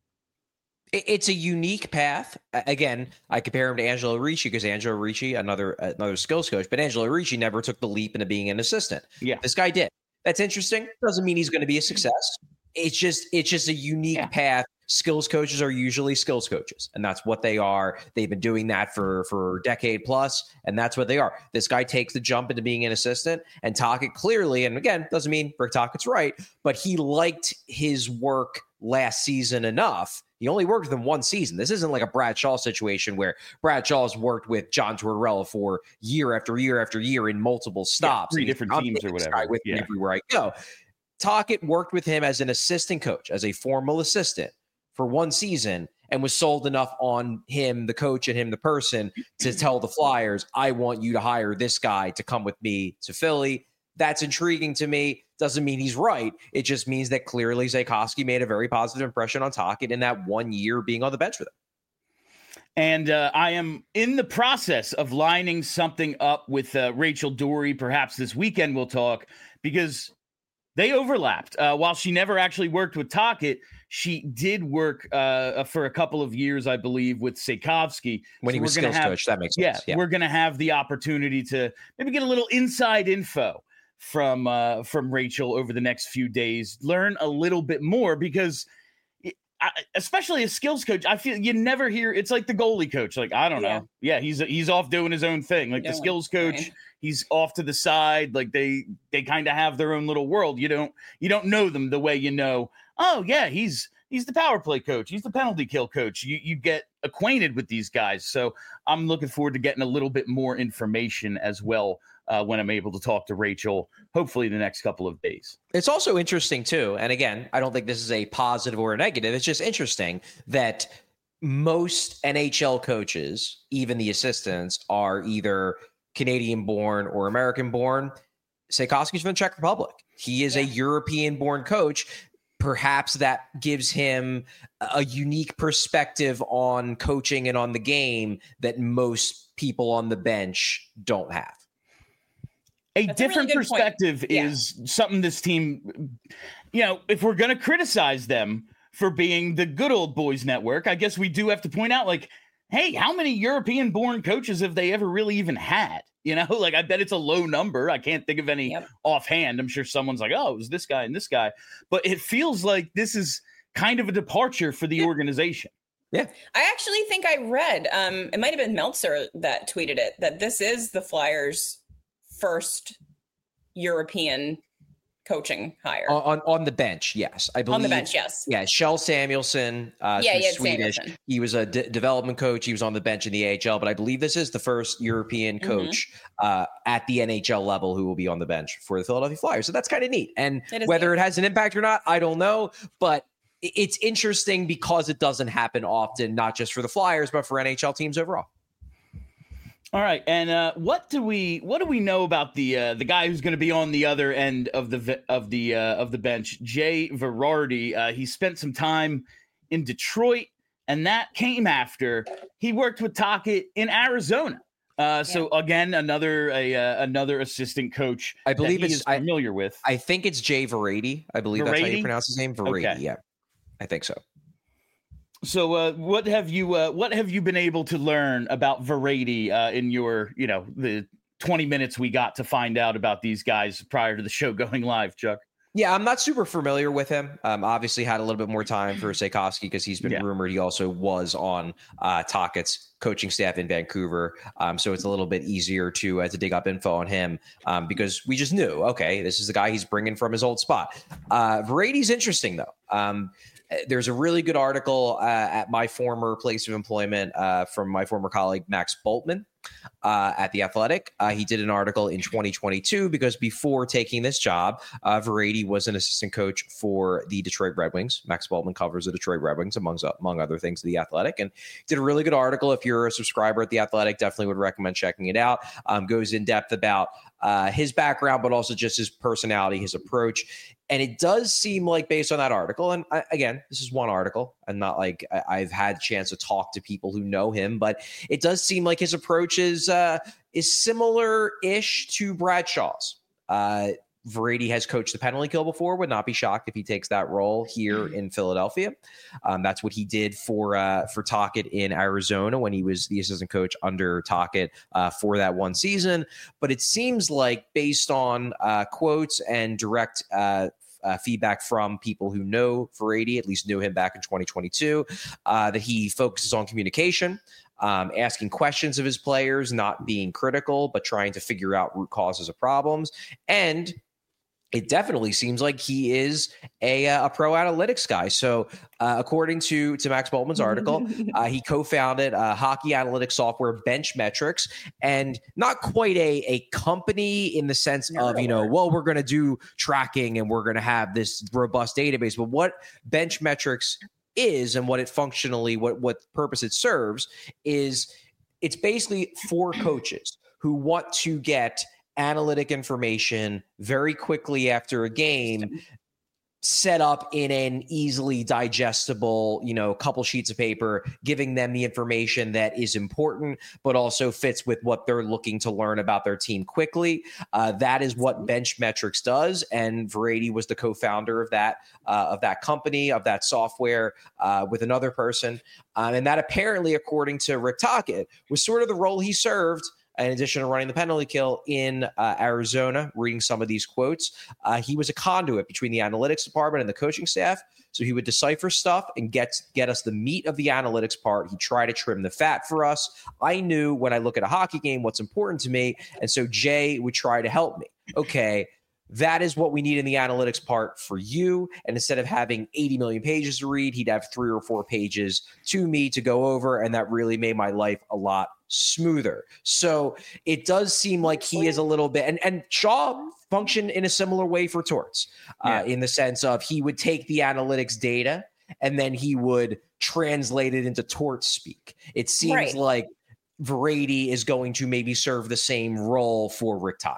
It- It's a unique path. A- Again, I compare him to Angelo Ricci because Angelo Ricci, another another skills coach, but Angelo Ricci never took the leap into being an assistant. Yeah. This guy did. That's interesting. Doesn't mean he's going to be a success. It's just it's just a unique Yeah. path. Skills coaches are usually skills coaches, and that's what they are. They've been doing that for for a decade plus, and that's what they are. This guy takes the jump into being an assistant, and Tocchet clearly, and again, doesn't mean Rick Tocchet's right, but he liked his work last season enough. He only worked with him one season. This isn't like a Brad Shaw situation where Brad Shaw's worked with John Tortorella for year after year after year in multiple stops. three and he's, different "I'm teams or taking this whatever." guy with me Yeah. everywhere I go. Tocchet worked with him as an assistant coach, as a formal assistant for one season and was sold enough on him, the coach, and him, the person, to tell the Flyers, I want you to hire this guy to come with me to Philly. That's intriguing to me. Doesn't mean he's right. It just means that clearly Zakoski made a very positive impression on Tocchet in that one year being on the bench with him. And uh, I am in the process of lining something up with uh, Rachel Doerrie. Perhaps this weekend we'll talk, because they overlapped. Uh, while she never actually worked with Tocchet, she did work uh, for a couple of years, I believe, with Zakoski. When so he was skills have, coach, that makes yeah, sense. Yeah, we're going to have the opportunity to maybe get a little inside info from uh, from Rachel over the next few days, learn a little bit more, because I, especially a skills coach, I feel you never hear. It's like the goalie coach. Like, I don't yeah. know. Yeah, he's he's off doing his own thing. Like no the skills coach, right. he's off to the side. Like they they kind of have their own little world. You don't you don't know them the way you know. Oh yeah, he's he's the power play coach. He's the penalty kill coach. You you get acquainted with these guys. So I'm looking forward to getting a little bit more information as well uh, when I'm able to talk to Rachel, hopefully the next couple of days. It's also interesting too. And again, I don't think this is a positive or a negative. It's just interesting that most N H L coaches, even the assistants, are either Canadian born or American born. Zakoski's from the Czech Republic. He is yeah. a European born coach. Perhaps that gives him a unique perspective on coaching and on the game that most people on the bench don't have. A That's different a really perspective yeah. is something this team, you know, if we're going to criticize them for being the good old boys network, I guess we do have to point out, like, hey, how many European born coaches have they ever really even had? You know, like, I bet it's a low number. I can't think of any yep. offhand. I'm sure someone's like, oh, it was this guy and this guy. But it feels like this is kind of a departure for the yeah. organization. Yeah. I actually think I read, um, it might have been Meltzer that tweeted it, that this is the Flyers' first European coaching hire. On, on on the bench, yes. I believe. On the bench, yes. Yeah, Kjell Samuelsson, uh, yeah, yeah, Swedish. Samuelsson. He was a d- development coach. He was on the bench in the A H L, but I believe this is the first European coach mm-hmm. uh, at the N H L level who will be on the bench for the Philadelphia Flyers. So that's kind of neat. And whether neat. it has an impact or not, I don't know. But it's interesting because it doesn't happen often, not just for the Flyers, but for N H L teams overall. All right, and uh, what do we what do we know about the uh, the guy who's going to be on the other end of the of the uh, of the bench, Jay Virardi? Uh, he spent some time in Detroit, and that came after he worked with Tocchet in Arizona. Uh, so yeah. again, another a uh, another assistant coach. I believe that he it's is familiar I, with. I think it's Jay Virardi. I believe Virardi? that's how you pronounce his name. Virardi. Okay. Yeah, I think so. So, uh, what have you uh, what have you been able to learn about Virardi uh, in your, you know, the twenty minutes we got to find out about these guys prior to the show going live, Chuck? Yeah, I'm not super familiar with him. Um, obviously had a little bit more time for Zakoski because he's been yeah. rumored he also was on uh, Tocchet's coaching staff in Vancouver. Um, so it's a little bit easier to uh, to dig up info on him um, because we just knew, okay, this is the guy he's bringing from his old spot. Uh, Virardi's interesting, though. Um, There's a really good article uh, at my former place of employment uh, from my former colleague, Max Bultman, uh, at The Athletic. Uh, he did an article in twenty twenty-two because before taking this job, uh, Virardi was an assistant coach for the Detroit Red Wings. Max Bultman covers the Detroit Red Wings, among, among other things, The Athletic, and did a really good article. If you're a subscriber at The Athletic, definitely would recommend checking it out. Um, goes in depth about uh, his background, but also just his personality, his approach. And it does seem like, based on that article, and I, again, this is one article, and not like I, I've had a chance to talk to people who know him, but it does seem like his approach is uh, is similar-ish to Brad Shaw's. Uh, Virardi has coached the penalty kill before. Would not be shocked if he takes that role here in Philadelphia. Um, that's what he did for uh, for Tocchet in Arizona when he was the assistant coach under Tocchet uh, for that one season. But it seems like, based on uh, quotes and direct uh, Uh, feedback from people who know Virardi, at least knew him back in twenty twenty-two, uh, that he focuses on communication, um, asking questions of his players, not being critical, but trying to figure out root causes of problems. And it definitely seems like he is a, a pro analytics guy. So uh, according to, to Max Bultman's article, uh, he co-founded uh, hockey analytics software Bench Metrics, and not quite a, a company in the sense no, of, you know, well, we're going to do tracking and we're going to have this robust database. But what Bench Metrics is and what it functionally, what, what purpose it serves is it's basically for coaches who want to get analytic information very quickly after a game set up in an easily digestible, you know, couple sheets of paper, giving them the information that is important, but also fits with what they're looking to learn about their team quickly. Uh, that is what Benchmetrics does. And Varady was the co-founder of that, uh, of that company, of that software uh, with another person. Um, and that apparently, according to Rick Tocchet, was sort of the role he served in addition to running the penalty kill in uh, Arizona, reading some of these quotes. Uh, he was a conduit between the analytics department and the coaching staff. So he would decipher stuff and get, get us the meat of the analytics part. He'd try to trim the fat for us. I knew when I look at a hockey game what's important to me. And so Jay would try to help me. Okay, that is what we need in the analytics part for you. And instead of having eighty million pages to read, he'd have three or four pages to me to go over. And that really made my life a lot smoother. So it does seem like he is a little bit, and, and Shaw functioned in a similar way for Torts, uh, yeah. in the sense of he would take the analytics data and then he would translate it into Torts speak. It seems right. like Varady is going to maybe serve the same role for Rick Tocchet.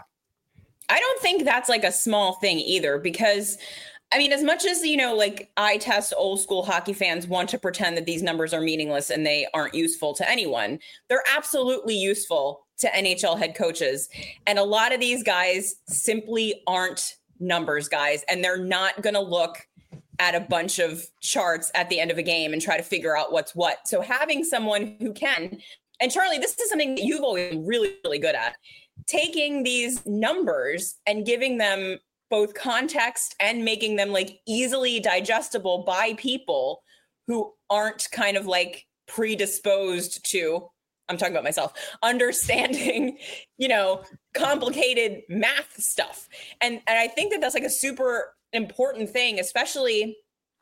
I don't think that's like a small thing either, because I mean, as much as, you know, like eye test old school hockey fans want to pretend that these numbers are meaningless and they aren't useful to anyone, they're absolutely useful to N H L head coaches. And a lot of these guys simply aren't numbers guys, and they're not going to look at a bunch of charts at the end of a game and try to figure out what's what. So having someone who can, and Charlie, this is something that you've always been really, really good at, taking these numbers and giving them both context and making them like easily digestible by people who aren't kind of like predisposed to, I'm talking about myself, understanding, you know, complicated math stuff. And, and I think that that's like a super important thing, especially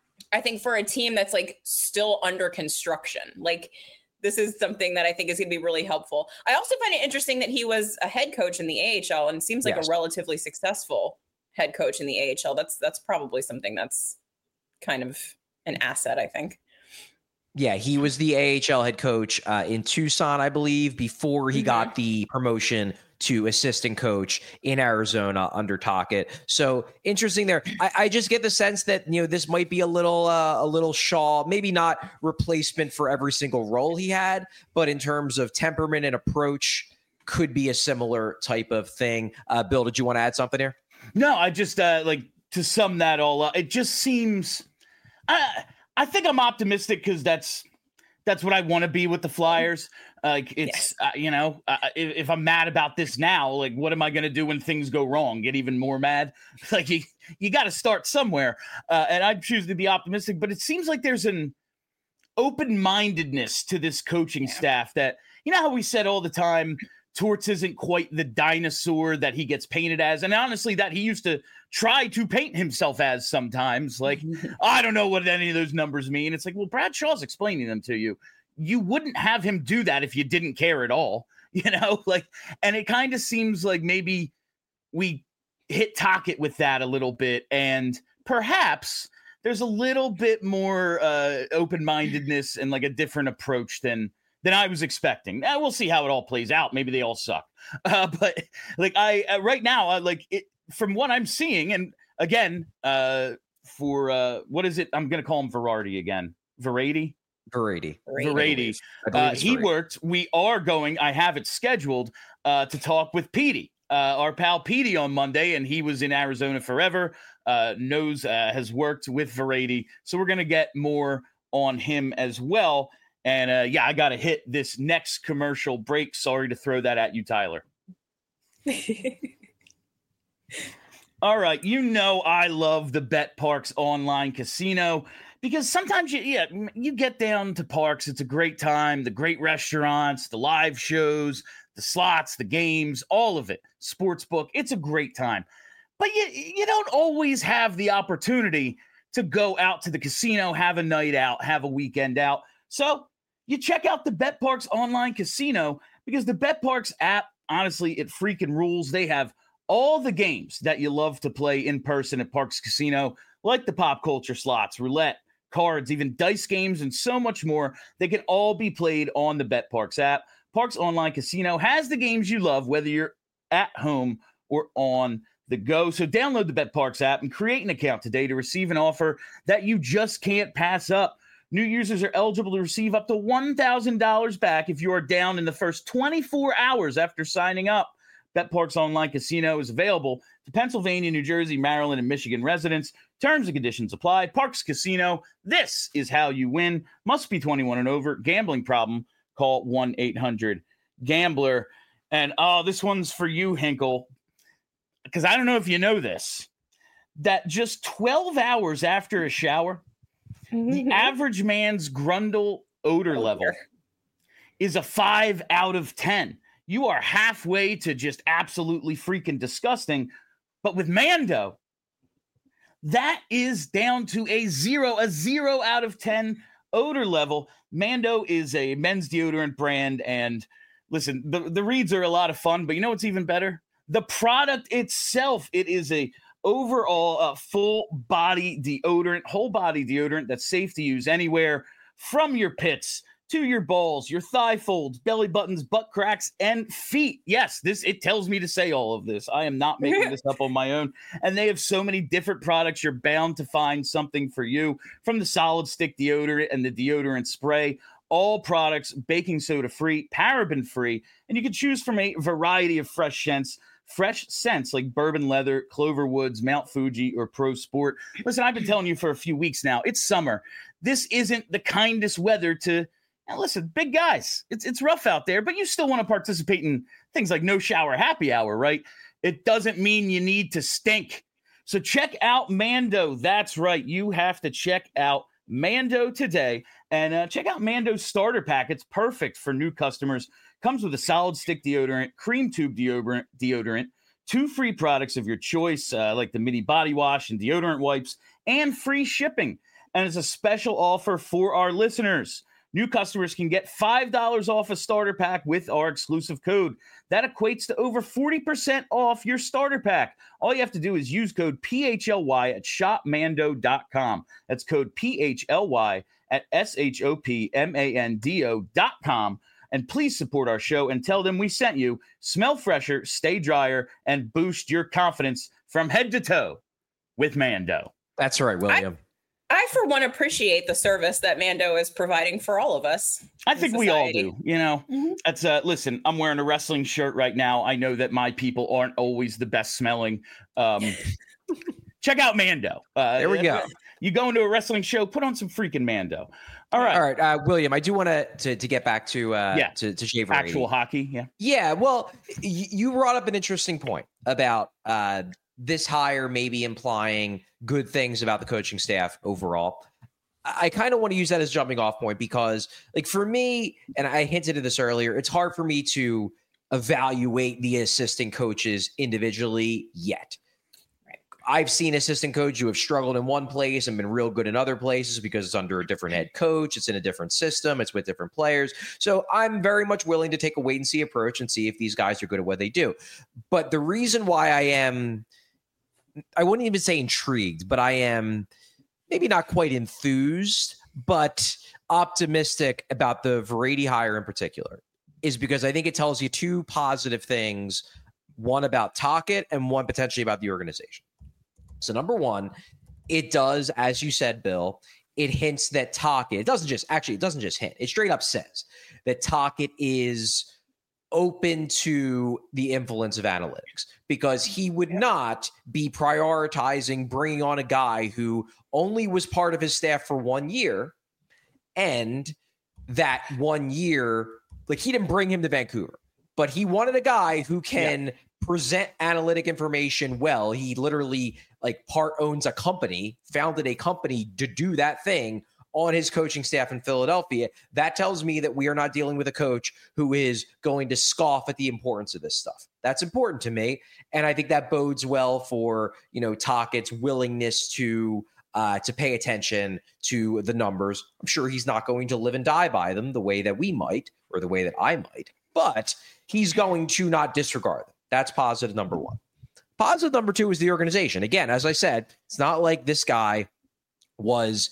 I think for a team that's like still under construction. Like this is something that I think is going to be really helpful. I also find it interesting that he was a head coach in the A H L and seems like yes. a relatively successful head coach in the A H L. That's that's probably something that's kind of an asset, I think. Yeah, he was the A H L head coach uh, in Tucson, I believe, before he mm-hmm. got the promotion to assistant coach in Arizona under Tocchet. So interesting there. I, I just get the sense that, you know, this might be a little uh, a little Shaw, maybe not replacement for every single role he had, but in terms of temperament and approach, could be a similar type of thing. Uh, Bill, did you want to add something here? No, I just uh, like to sum that all up. It just seems, I I think I'm optimistic because that's that's what I want to be with the Flyers. Like it's yes. uh, you know, uh, if, if I'm mad about this now, like what am I going to do when things go wrong? Get even more mad? Like you you got to start somewhere, uh, and I choose to be optimistic. But it seems like there's an open-mindedness to this coaching yeah. staff that, you know how we said all the time, Torts isn't quite the dinosaur that he gets painted as. And honestly, that he used to try to paint himself as sometimes. Like, I don't know what any of those numbers mean. It's like, well, Brad Shaw's explaining them to you. You wouldn't have him do that if you didn't care at all, you know, like, and it kind of seems like maybe we hit Tocchet with that a little bit. And perhaps there's a little bit more uh, open-mindedness and like a different approach than than I was expecting. Now we'll see how it all plays out. Maybe they all suck. Uh, but like I, uh, right now, I like it from what I'm seeing. And again, uh, for uh, what is it? I'm going to call him Varady again. Varady? Varady. Varady. Uh, he Varady. worked. We are going, I have it scheduled uh, to talk with Petey, uh, our pal Petey on Monday. And he was in Arizona forever, uh, knows, uh, has worked with Varady. So we're going to get more on him as well. And uh, yeah, I got to hit this next commercial break. Sorry to throw that at you, Tyler. All right. You know, I love the BetParx online casino because sometimes you, yeah, you get down to Parx. It's a great time. The great restaurants, the live shows, the slots, the games, all of it. Sportsbook. It's a great time. But you, you don't always have the opportunity to go out to the casino, have a night out, have a weekend out. So you check out the BetParx online casino because the BetParx app, honestly, it freaking rules. They have all the games that you love to play in person at Parx Casino, like the pop culture slots, roulette, cards, even dice games, and so much more. They can all be played on the BetParx app. Parx Online Casino has the games you love, whether you're at home or on the go. So download the BetParx app and create an account today to receive an offer that you just can't pass up. New users are eligible to receive up to one thousand dollars back if you are down in the first twenty-four hours after signing up. BetParx Online Casino is available to Pennsylvania, New Jersey, Maryland, and Michigan residents. Terms and conditions apply. Parx Casino, this is how you win. Must be twenty-one and over. Gambling problem, call one eight hundred gambler. And, oh, this one's for you, Hinkle, because I don't know if you know this, that just twelve hours after a shower, the average man's Grundle odor level is a five out of ten. You are halfway to just absolutely freaking disgusting. But with Mando, that is down to a zero, a zero out of ten odor level. Mando is a men's deodorant brand. And listen, the, the reads are a lot of fun, but you know what's even better? The product itself. It is a overall uh, full body deodorant, whole body deodorant that's safe to use anywhere, from your pits to your balls, your thigh folds, belly buttons, butt cracks, and feet. Yes, this it tells me to say all of this. I am not making this up on my own. And they have so many different products. You're bound to find something for you, from the solid stick deodorant and the deodorant spray. All products baking soda free, paraben free, and you can choose from a variety of fresh scents. Fresh scents like bourbon leather, Clover Woods, Mount Fuji, or Pro Sport. Listen, I've been telling you for a few weeks now, it's summer. This isn't the kindest weather to, and listen, big guys, it's it's rough out there, but you still want to participate in things like no shower happy hour, right? It doesn't mean you need to stink. So check out Mando. That's right. You have to check out Mando today, and uh, check out Mando's starter pack. It's perfect for new customers. Comes with a solid stick deodorant, cream tube deodorant, deodorant, two free products of your choice, uh, like the mini body wash and deodorant wipes, and free shipping. And it's a special offer for our listeners. New customers can get five dollars off a starter pack with our exclusive code. That equates to over forty percent off your starter pack. All you have to do is use code P H L Y at shop mando dot com. That's code P H L Y at S H O P M A N D O dot com. And please support our show and tell them we sent you. Smell fresher, stay drier, and boost your confidence from head to toe with Mando. That's right, William. I, I for one, appreciate the service that Mando is providing for all of us. I think we all do. You know, mm-hmm. that's uh, listen, I'm wearing a wrestling shirt right now. I know that my people aren't always the best smelling. Um, check out Mando. Uh, there we go. You go into a wrestling show, put on some freaking Mando. All right. All right. Uh, William, I do want to to get back to uh, yeah. to, to Shaver Actual hockey. Yeah. Yeah. Well, y- you brought up an interesting point about uh, this hire maybe implying good things about the coaching staff overall. I, I kind of want to use that as a jumping off point because, like, for me, and I hinted at this earlier, it's hard for me to evaluate the assistant coaches individually yet. I've seen assistant coaches who have struggled in one place and been real good in other places because it's under a different head coach. It's in a different system. It's with different players. So I'm very much willing to take a wait and see approach and see if these guys are good at what they do. But the reason why I am, I wouldn't even say intrigued, but I am maybe not quite enthused, but optimistic about the Vrede hire in particular is because I think it tells you two positive things, one about Tocchet and one potentially about the organization. So number one, it does, as you said, Bill, it hints that Tocchet, it doesn't just, actually, it doesn't just hint, it straight up says that Tocchet is open to the influence of analytics because he would not be prioritizing bringing on a guy who only was part of his staff for one year. And that one year, like he didn't bring him to Vancouver, but he wanted a guy who can yeah. present analytic information well. He literally like part owns a company, founded a company to do that thing on his coaching staff in Philadelphia. That tells me that we are not dealing with a coach who is going to scoff at the importance of this stuff. That's important to me. And I think that bodes well for, you know, Tocchet's willingness to uh, to pay attention to the numbers. I'm sure he's not going to live and die by them the way that we might, or the way that I might, but he's going to not disregard them. That's positive number one. Positive number two is the organization. Again, as I said, it's not like this guy was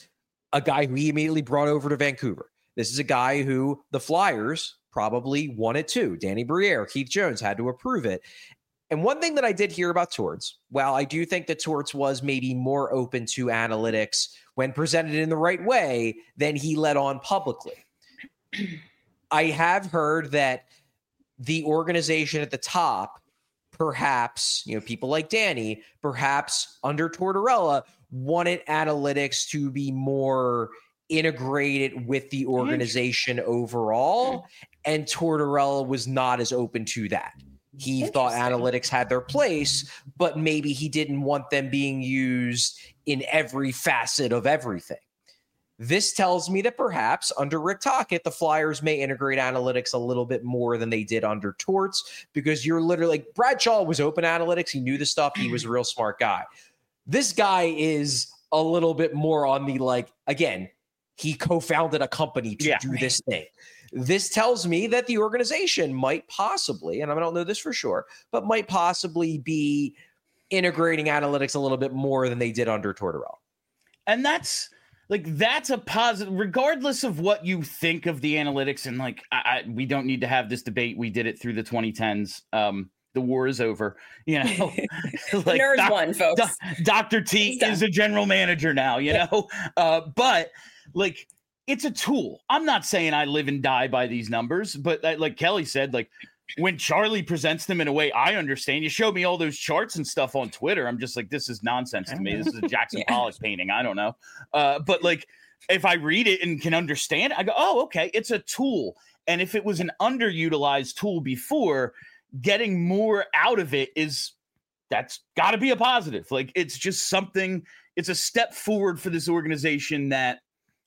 a guy who he immediately brought over to Vancouver. This is a guy who the Flyers probably wanted too. Danny Briere, Keith Jones had to approve it. And one thing that I did hear about Torts, while I do think that Torts was maybe more open to analytics when presented in the right way than he let on publicly, I have heard that the organization at the top, perhaps, you know, people like Danny, perhaps under Tortorella, wanted analytics to be more integrated with the organization overall, and Tortorella was not as open to that. He thought analytics had their place, but maybe he didn't want them being used in every facet of everything. This tells me that perhaps under Rick Tocchet, the Flyers may integrate analytics a little bit more than they did under Torts, because you're literally like Bradshaw was open analytics. He knew the stuff. He was a real smart guy. This guy is a little bit more on the, like, again, he co-founded a company to yeah. do this thing. This tells me that the organization might possibly, and I don't know this for sure, but might possibly be integrating analytics a little bit more than they did under Tortorella. And that's like, that's a positive, regardless of what you think of the analytics. And like, I, I, we don't need to have this debate. We did it through the twenty tens. Um, the war is over, you know, like Nerds doc, won, folks. Do, Doctor T is a general manager now, you know, uh, but like, it's a tool. I'm not saying I live and die by these numbers, but like Kelly said, like when Charlie presents them in a way I understand, you show me all those charts and stuff on Twitter, I'm just like, this is nonsense to me. This is a Jackson yeah. Pollock painting. I don't know. Uh, but like, if I read it and can understand it, I go, oh, okay, it's a tool. And if it was an underutilized tool before, getting more out of it is, that's got to be a positive. Like, it's just something, it's a step forward for this organization that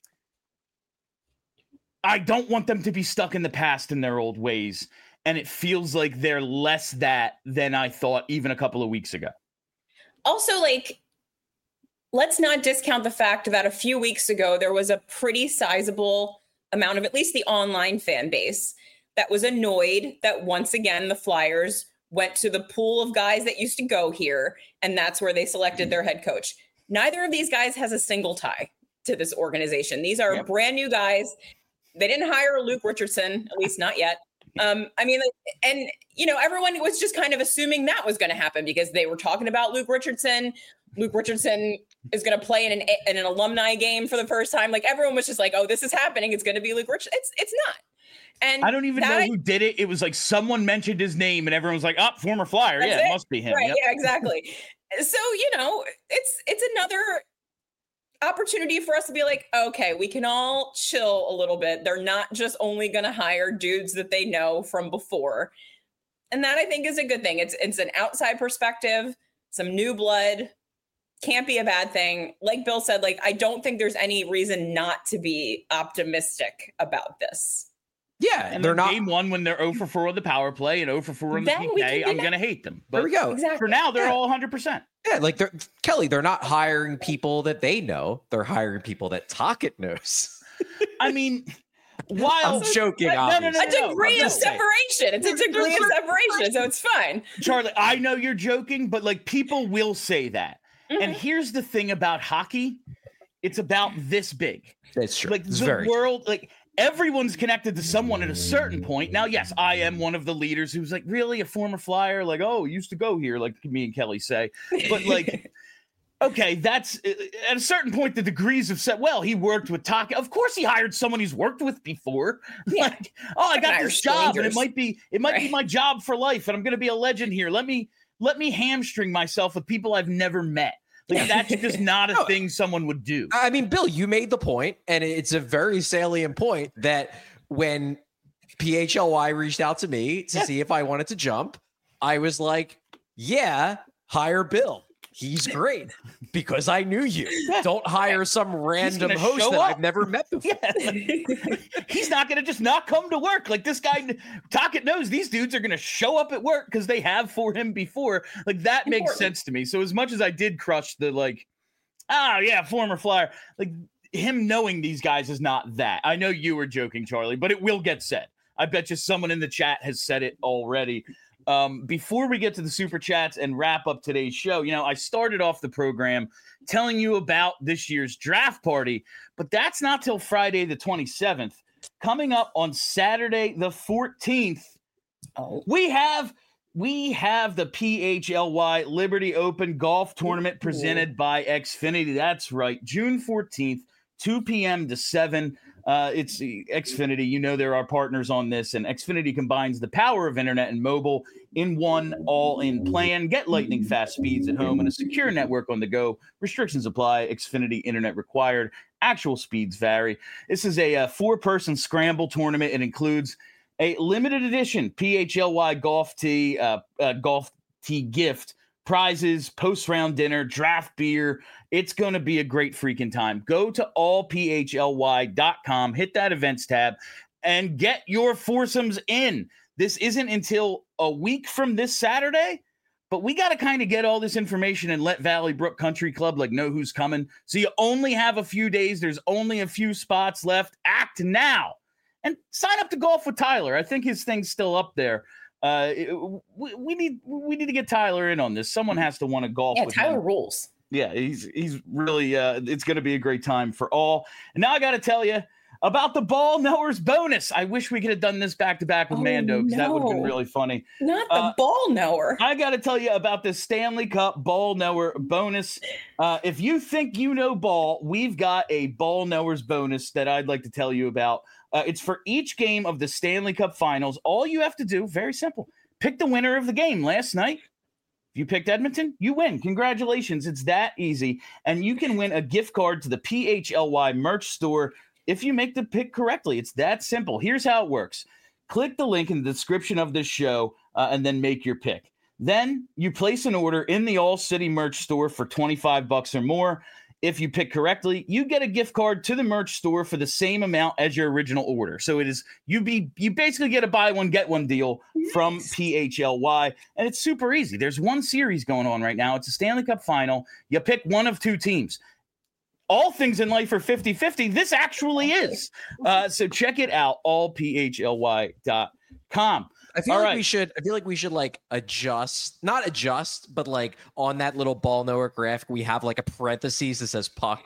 I don't want them to be stuck in the past in their old ways. And it feels like they're less that than I thought even a couple of weeks ago. Also, like, let's not discount the fact that a few weeks ago, there was a pretty sizable amount of at least the online fan base that was annoyed that once again, the Flyers went to the pool of guys that used to go here. And that's where they selected their head coach. Neither of these guys has a single tie to this organization. These are yep. brand new guys. They didn't hire Luke Richardson, at least not yet. Um, I mean, and, you know, everyone was just kind of assuming that was going to happen because they were talking about Luke Richardson. Luke Richardson is going to play in an, in an alumni game for the first time. Like, everyone was just like, oh, this is happening. It's going to be Luke Richardson. It's, it's not. And I don't even know who did it. It was like someone mentioned his name and everyone was like, oh, former Flyer. Yeah, it. it must be him. Right. Yep. Yeah, exactly. So, you know, it's, it's another opportunity for us to be like, okay, we can all chill a little bit. They're not just only going to hire dudes that they know from before. And that, I think, is a good thing. It's it's an outside perspective, some new blood, can't be a bad thing. Like Bill said, like, I don't think there's any reason not to be optimistic about this. Yeah, and they're not game one when they're zero for four on the power play and zero for four on the P K. I'm going to hate them. But there we go. Exactly. For now, they're yeah. all one hundred percent. Yeah, like they're Kelly, they're not hiring people that they know. They're hiring people that Tocchet knows. I mean, while I'm joking, no, no, no, no, a degree no, of separation. It's a degree of separation, so it's fine. Charlie, I know you're joking, but like, people will say that. Mm-hmm. And here's the thing about hockey: it's about this big. That's true. Like, it's the very world, like, everyone's connected to someone at a certain point. Now, yes, I am one of the leaders who's like, really, a former Flyer? Like, oh, used to go here, like me and Kelly say. But like, okay, that's at a certain point, the degrees of set. Well, he worked with Tocchet. Of course, he hired someone he's worked with before. Yeah. Like, oh, I got this job, and it might be it might right. be my job for life, and I'm going to be a legend here. Let me let me hamstring myself with people I've never met. Like, that's just not a no, thing someone would do. I mean, Bill, you made the point, and it's a very salient point that when P H L Y reached out to me to yeah. see if I wanted to jump, I was like, yeah, hire Bill. He's great because I knew you. Don't hire some random host that up. I've never met before. Yeah. He's not going to just not come to work. Like, this guy, Tocchet knows these dudes are going to show up at work because they have for him before. Like, that Important. makes sense to me. So as much as I did crush the, like, oh, yeah, former Flyer, like, him knowing these guys is not that. I know you were joking, Charlie, but it will get said. I bet you someone in the chat has said it already. Um, before we get to the super chats and wrap up today's show, you know, I started off the program telling you about this year's draft party, but that's not till Friday the twenty-seventh. Coming up on Saturday the fourteenth, oh. we have we have the P H L Y Liberty Open Golf Tournament presented by Xfinity. That's right, June fourteenth, two p.m. to seven. Uh, it's Xfinity. You know, there are partners on this, and Xfinity combines the power of internet and mobile in one all-in plan. Get lightning fast speeds at home and a secure network on the go. Restrictions apply. Xfinity internet required. Actual speeds vary. This is a, a four-person scramble tournament. It includes a limited edition P H L Y golf tee, uh, uh, golf tee gift, prizes, post-round dinner, draft beer. It's going to be a great freaking time. Go to all p h l y dot com, hit that events tab, and get your foursomes in. This isn't until a week from this Saturday, but we got to kind of get all this information and let Valley Brook Country Club like know who's coming. So you only have a few days. There's only a few spots left. Act now and sign up to Golf with Tyler. I think his thing's still up there. Uh, we, we need we need to get Tyler in on this. Someone has to want to golf. Yeah, with Tyler him. rules. Yeah, he's he's really. Uh, it's going to be a great time for all. And now I got to tell you about the Ball Knowers bonus. I wish we could have done this back to back with oh, Mando because no. that would have been really funny. Not the uh, Ball Knower. I got to tell you about the Stanley Cup Ball Knower bonus. Uh, if you think you know ball, we've got a Ball Knowers bonus that I'd like to tell you about. Uh, it's for each game of the Stanley Cup Finals. All you have to do, very simple. Pick the winner of the game last night. If you picked Edmonton, you win. Congratulations. It's that easy. And you can win a gift card to the P H L Y merch store if you make the pick correctly. It's that simple. Here's how it works. Click the link in the description of this show uh, and then make your pick. Then you place an order in the All City merch store for twenty-five bucks or more. If you pick correctly, you get a gift card to the merch store for the same amount as your original order. So it is you be you basically get a buy one get one deal nice. From P H L Y, and it's super easy. There's one series going on right now. It's a Stanley Cup final. You pick one of two teams. All things in life are fifty-fifty. This actually is. Uh, so check it out, all p h l y dot com. I feel All like right. we should. I feel like we should like adjust, not adjust, but like on that little Ball Knower graphic, we have like a parentheses that says puck.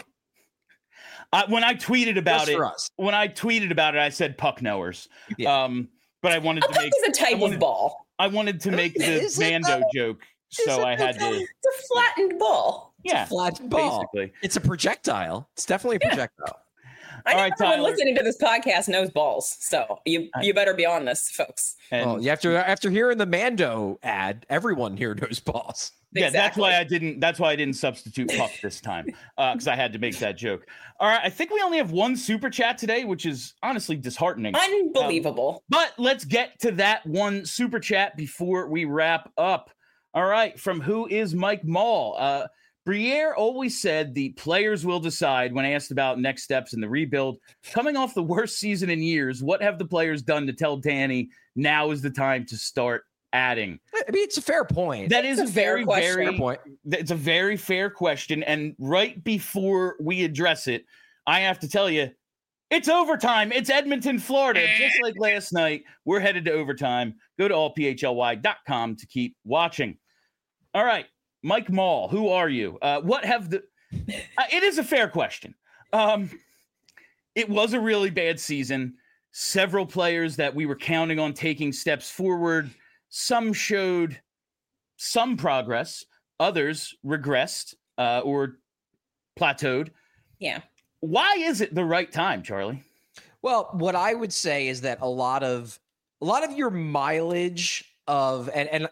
Uh, when I tweeted about Just it, for us. when I tweeted about it, I said puck knowers. Yeah. Um, but I wanted A to puck make is a type I wanted, of ball. I wanted to make the Is it Mando though? joke, Is so it I had to. It's a flattened ball. Yeah, Flat ball. basically. It's a projectile. It's definitely a Yeah. projectile. I All know right, everyone Tyler. listening to this podcast knows balls, so you you better be on this, folks. And, Well, you have to after hearing the Mando ad, everyone here knows balls. yeah, that's Exactly. why I didn't. That's why I didn't substitute puck this time because I had to make that joke. All right, I think we only have one super chat today, which is honestly disheartening. Unbelievable. But let's get to that one super chat before we wrap up. All right, from Who is Mike Mall? Uh, Briere always said the players will decide when asked about next steps in the rebuild. Coming off the worst season in years, what have the players done to tell Danny now is the time to start adding? I mean, it's a fair point. That is It's a a fair very, question. very, fair point. it's a very fair question. And right before we address it, I have to tell you, it's overtime. It's Edmonton, Florida. Just like last night, we're headed to overtime. Go to all p h l y dot com to keep watching. All right, Mike Mall, who are you? Uh, what have the? Uh, it is a fair question. Um, it was a really bad season. Several players that we were counting on taking steps forward. Some showed some progress. Others regressed uh, or plateaued. Yeah. Why is it the right time, Charlie? Well, what I would say is that a lot of a lot of your mileage of and and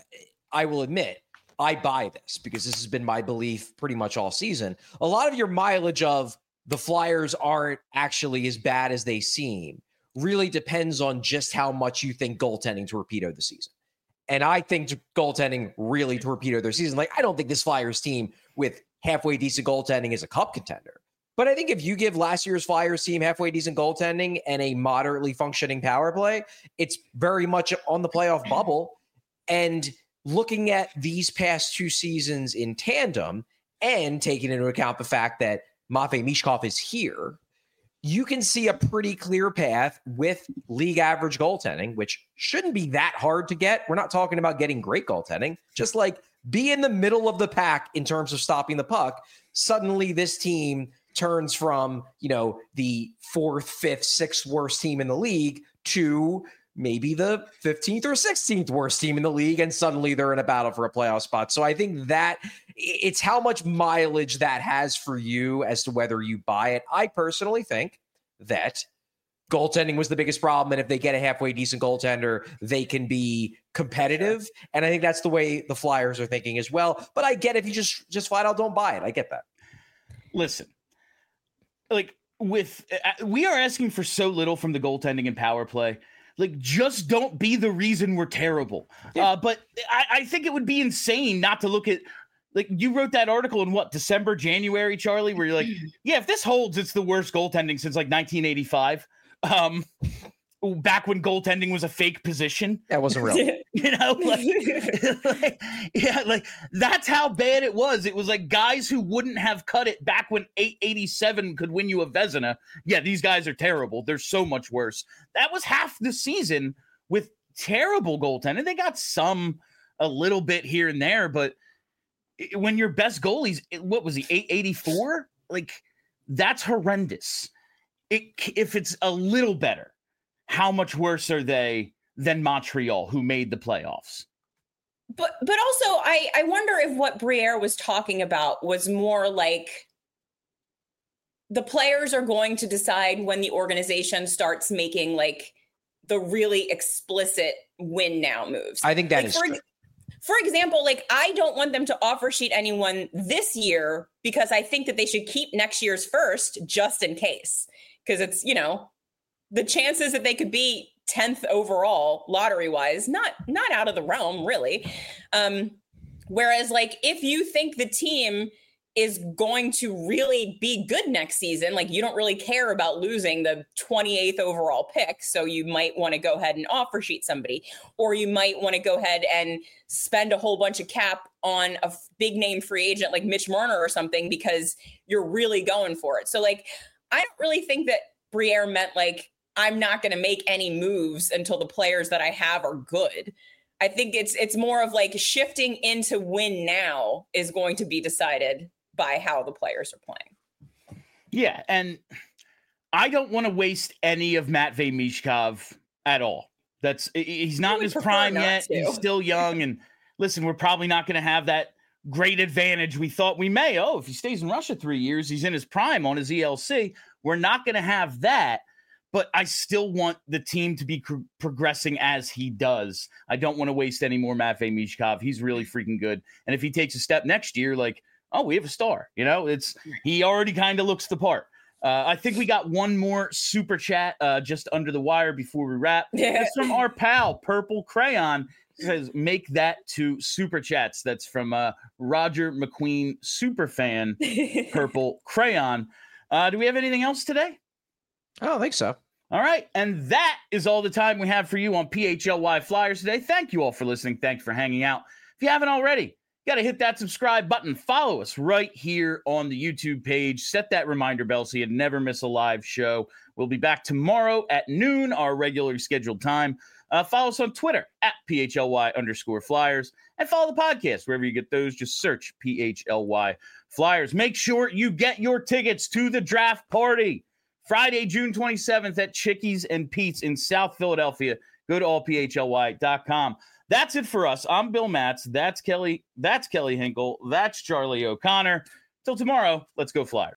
I will admit I buy this because this has been my belief pretty much all season. A lot of your mileage of the Flyers aren't actually as bad as they seem really depends on just how much you think goaltending torpedoed the season. And I think goaltending really torpedoed their season. Like, I don't think this Flyers team with halfway decent goaltending is a cup contender. But I think if you give last year's Flyers team halfway decent goaltending and a moderately functioning power play, it's very much on the playoff bubble. And looking at these past two seasons in tandem and taking into account the fact that Matvei Mishkov is here, you can see a pretty clear path with league average goaltending, which shouldn't be that hard to get. We're not talking about getting great goaltending, just like be in the middle of the pack in terms of stopping the puck. Suddenly this team turns from, you know, the fourth, fifth, sixth worst team in the league to maybe the fifteenth or sixteenth worst team in the league, and suddenly they're in a battle for a playoff spot. So I think that it's how much mileage that has for you as to whether you buy it. I personally think that goaltending was the biggest problem, and if they get a halfway decent goaltender, they can be competitive. And I think that's the way the Flyers are thinking as well. But I get if you just just flat out don't buy it. I get that. Listen, like with uh, we are asking for so little from the goaltending and power play. Like, just don't be the reason we're terrible. Yeah. Uh, but I, I think it would be insane not to look at, like, you wrote that article in what, December, January, Charlie, where you're like, yeah, if this holds, it's the worst goaltending since like nineteen eighty-five. Um, back when goaltending was a fake position. That wasn't real. You know, like, like, yeah, like that's how bad it was. It was like guys who wouldn't have cut it back when eight eighty-seven could win you a Vezina. Yeah, these guys are terrible. They're so much worse. That was half the season with terrible goaltending. They got some a little bit here and there, but when your best goalies, what was he, eight eighty-four? Like, that's horrendous. It, if it's a little better, how much worse are they than Montreal, who made the playoffs? But but also, I, I wonder if what Briere was talking about was more like the players are going to decide when the organization starts making like the really explicit win now moves. I think that like, is for, true. For example, like I don't want them to offer sheet anyone this year because I think that they should keep next year's first just in case. Because it's, you know, the chances that they could be tenth overall lottery wise, not not out of the realm, really. Um, whereas, like, if you think the team is going to really be good next season, like you don't really care about losing the twenty-eighth overall pick. So you might want to go ahead and offer sheet somebody, or you might want to go ahead and spend a whole bunch of cap on a big name free agent like Mitch Marner or something because you're really going for it. So, like, I don't really think that Briere meant like, I'm not going to make any moves until the players that I have are good. I think it's it's more of like shifting into win now is going to be decided by how the players are playing. Yeah, and I don't want to waste any of Matvei Michkov at all. That's he's not in his prime yet. To. He's still young, and listen, we're probably not going to have that great advantage we thought we may. Oh, if he stays in Russia three years, he's in his prime on his E L C. We're not going to have that, but I still want the team to be cr- progressing as he does. I don't want to waste any more Matvei Michkov. He's really freaking good. And if he takes a step next year, like, oh, we have a star, you know, it's, he already kind of looks the part. Uh, I think we got one more super chat uh, just under the wire before we wrap. Yeah. It's from our pal, Purple Crayon. It says, make that to super chats. That's from uh, Roger McQueen, super fan, Purple Crayon. Uh, do we have anything else today? I don't think so. All right. And that is all the time we have for you on P H L Y Flyers today. Thank you all for listening. Thanks for hanging out. If you haven't already, you got to hit that subscribe button. Follow us right here on the YouTube page. Set that reminder bell so you never miss a live show. We'll be back tomorrow at noon, our regularly scheduled time. Uh, follow us on Twitter at P H L Y underscore Flyers. And follow the podcast wherever you get those. Just search P H L Y Flyers. Make sure you get your tickets to the draft party Friday, June twenty-seventh at Chickies and Pete's in South Philadelphia. Go to all P H L Y dot com. That's it for us. I'm Bill Matz. That's Kelly. That's Kelly Hinkle. That's Charlie O'Connor. Till tomorrow, let's go Flyers.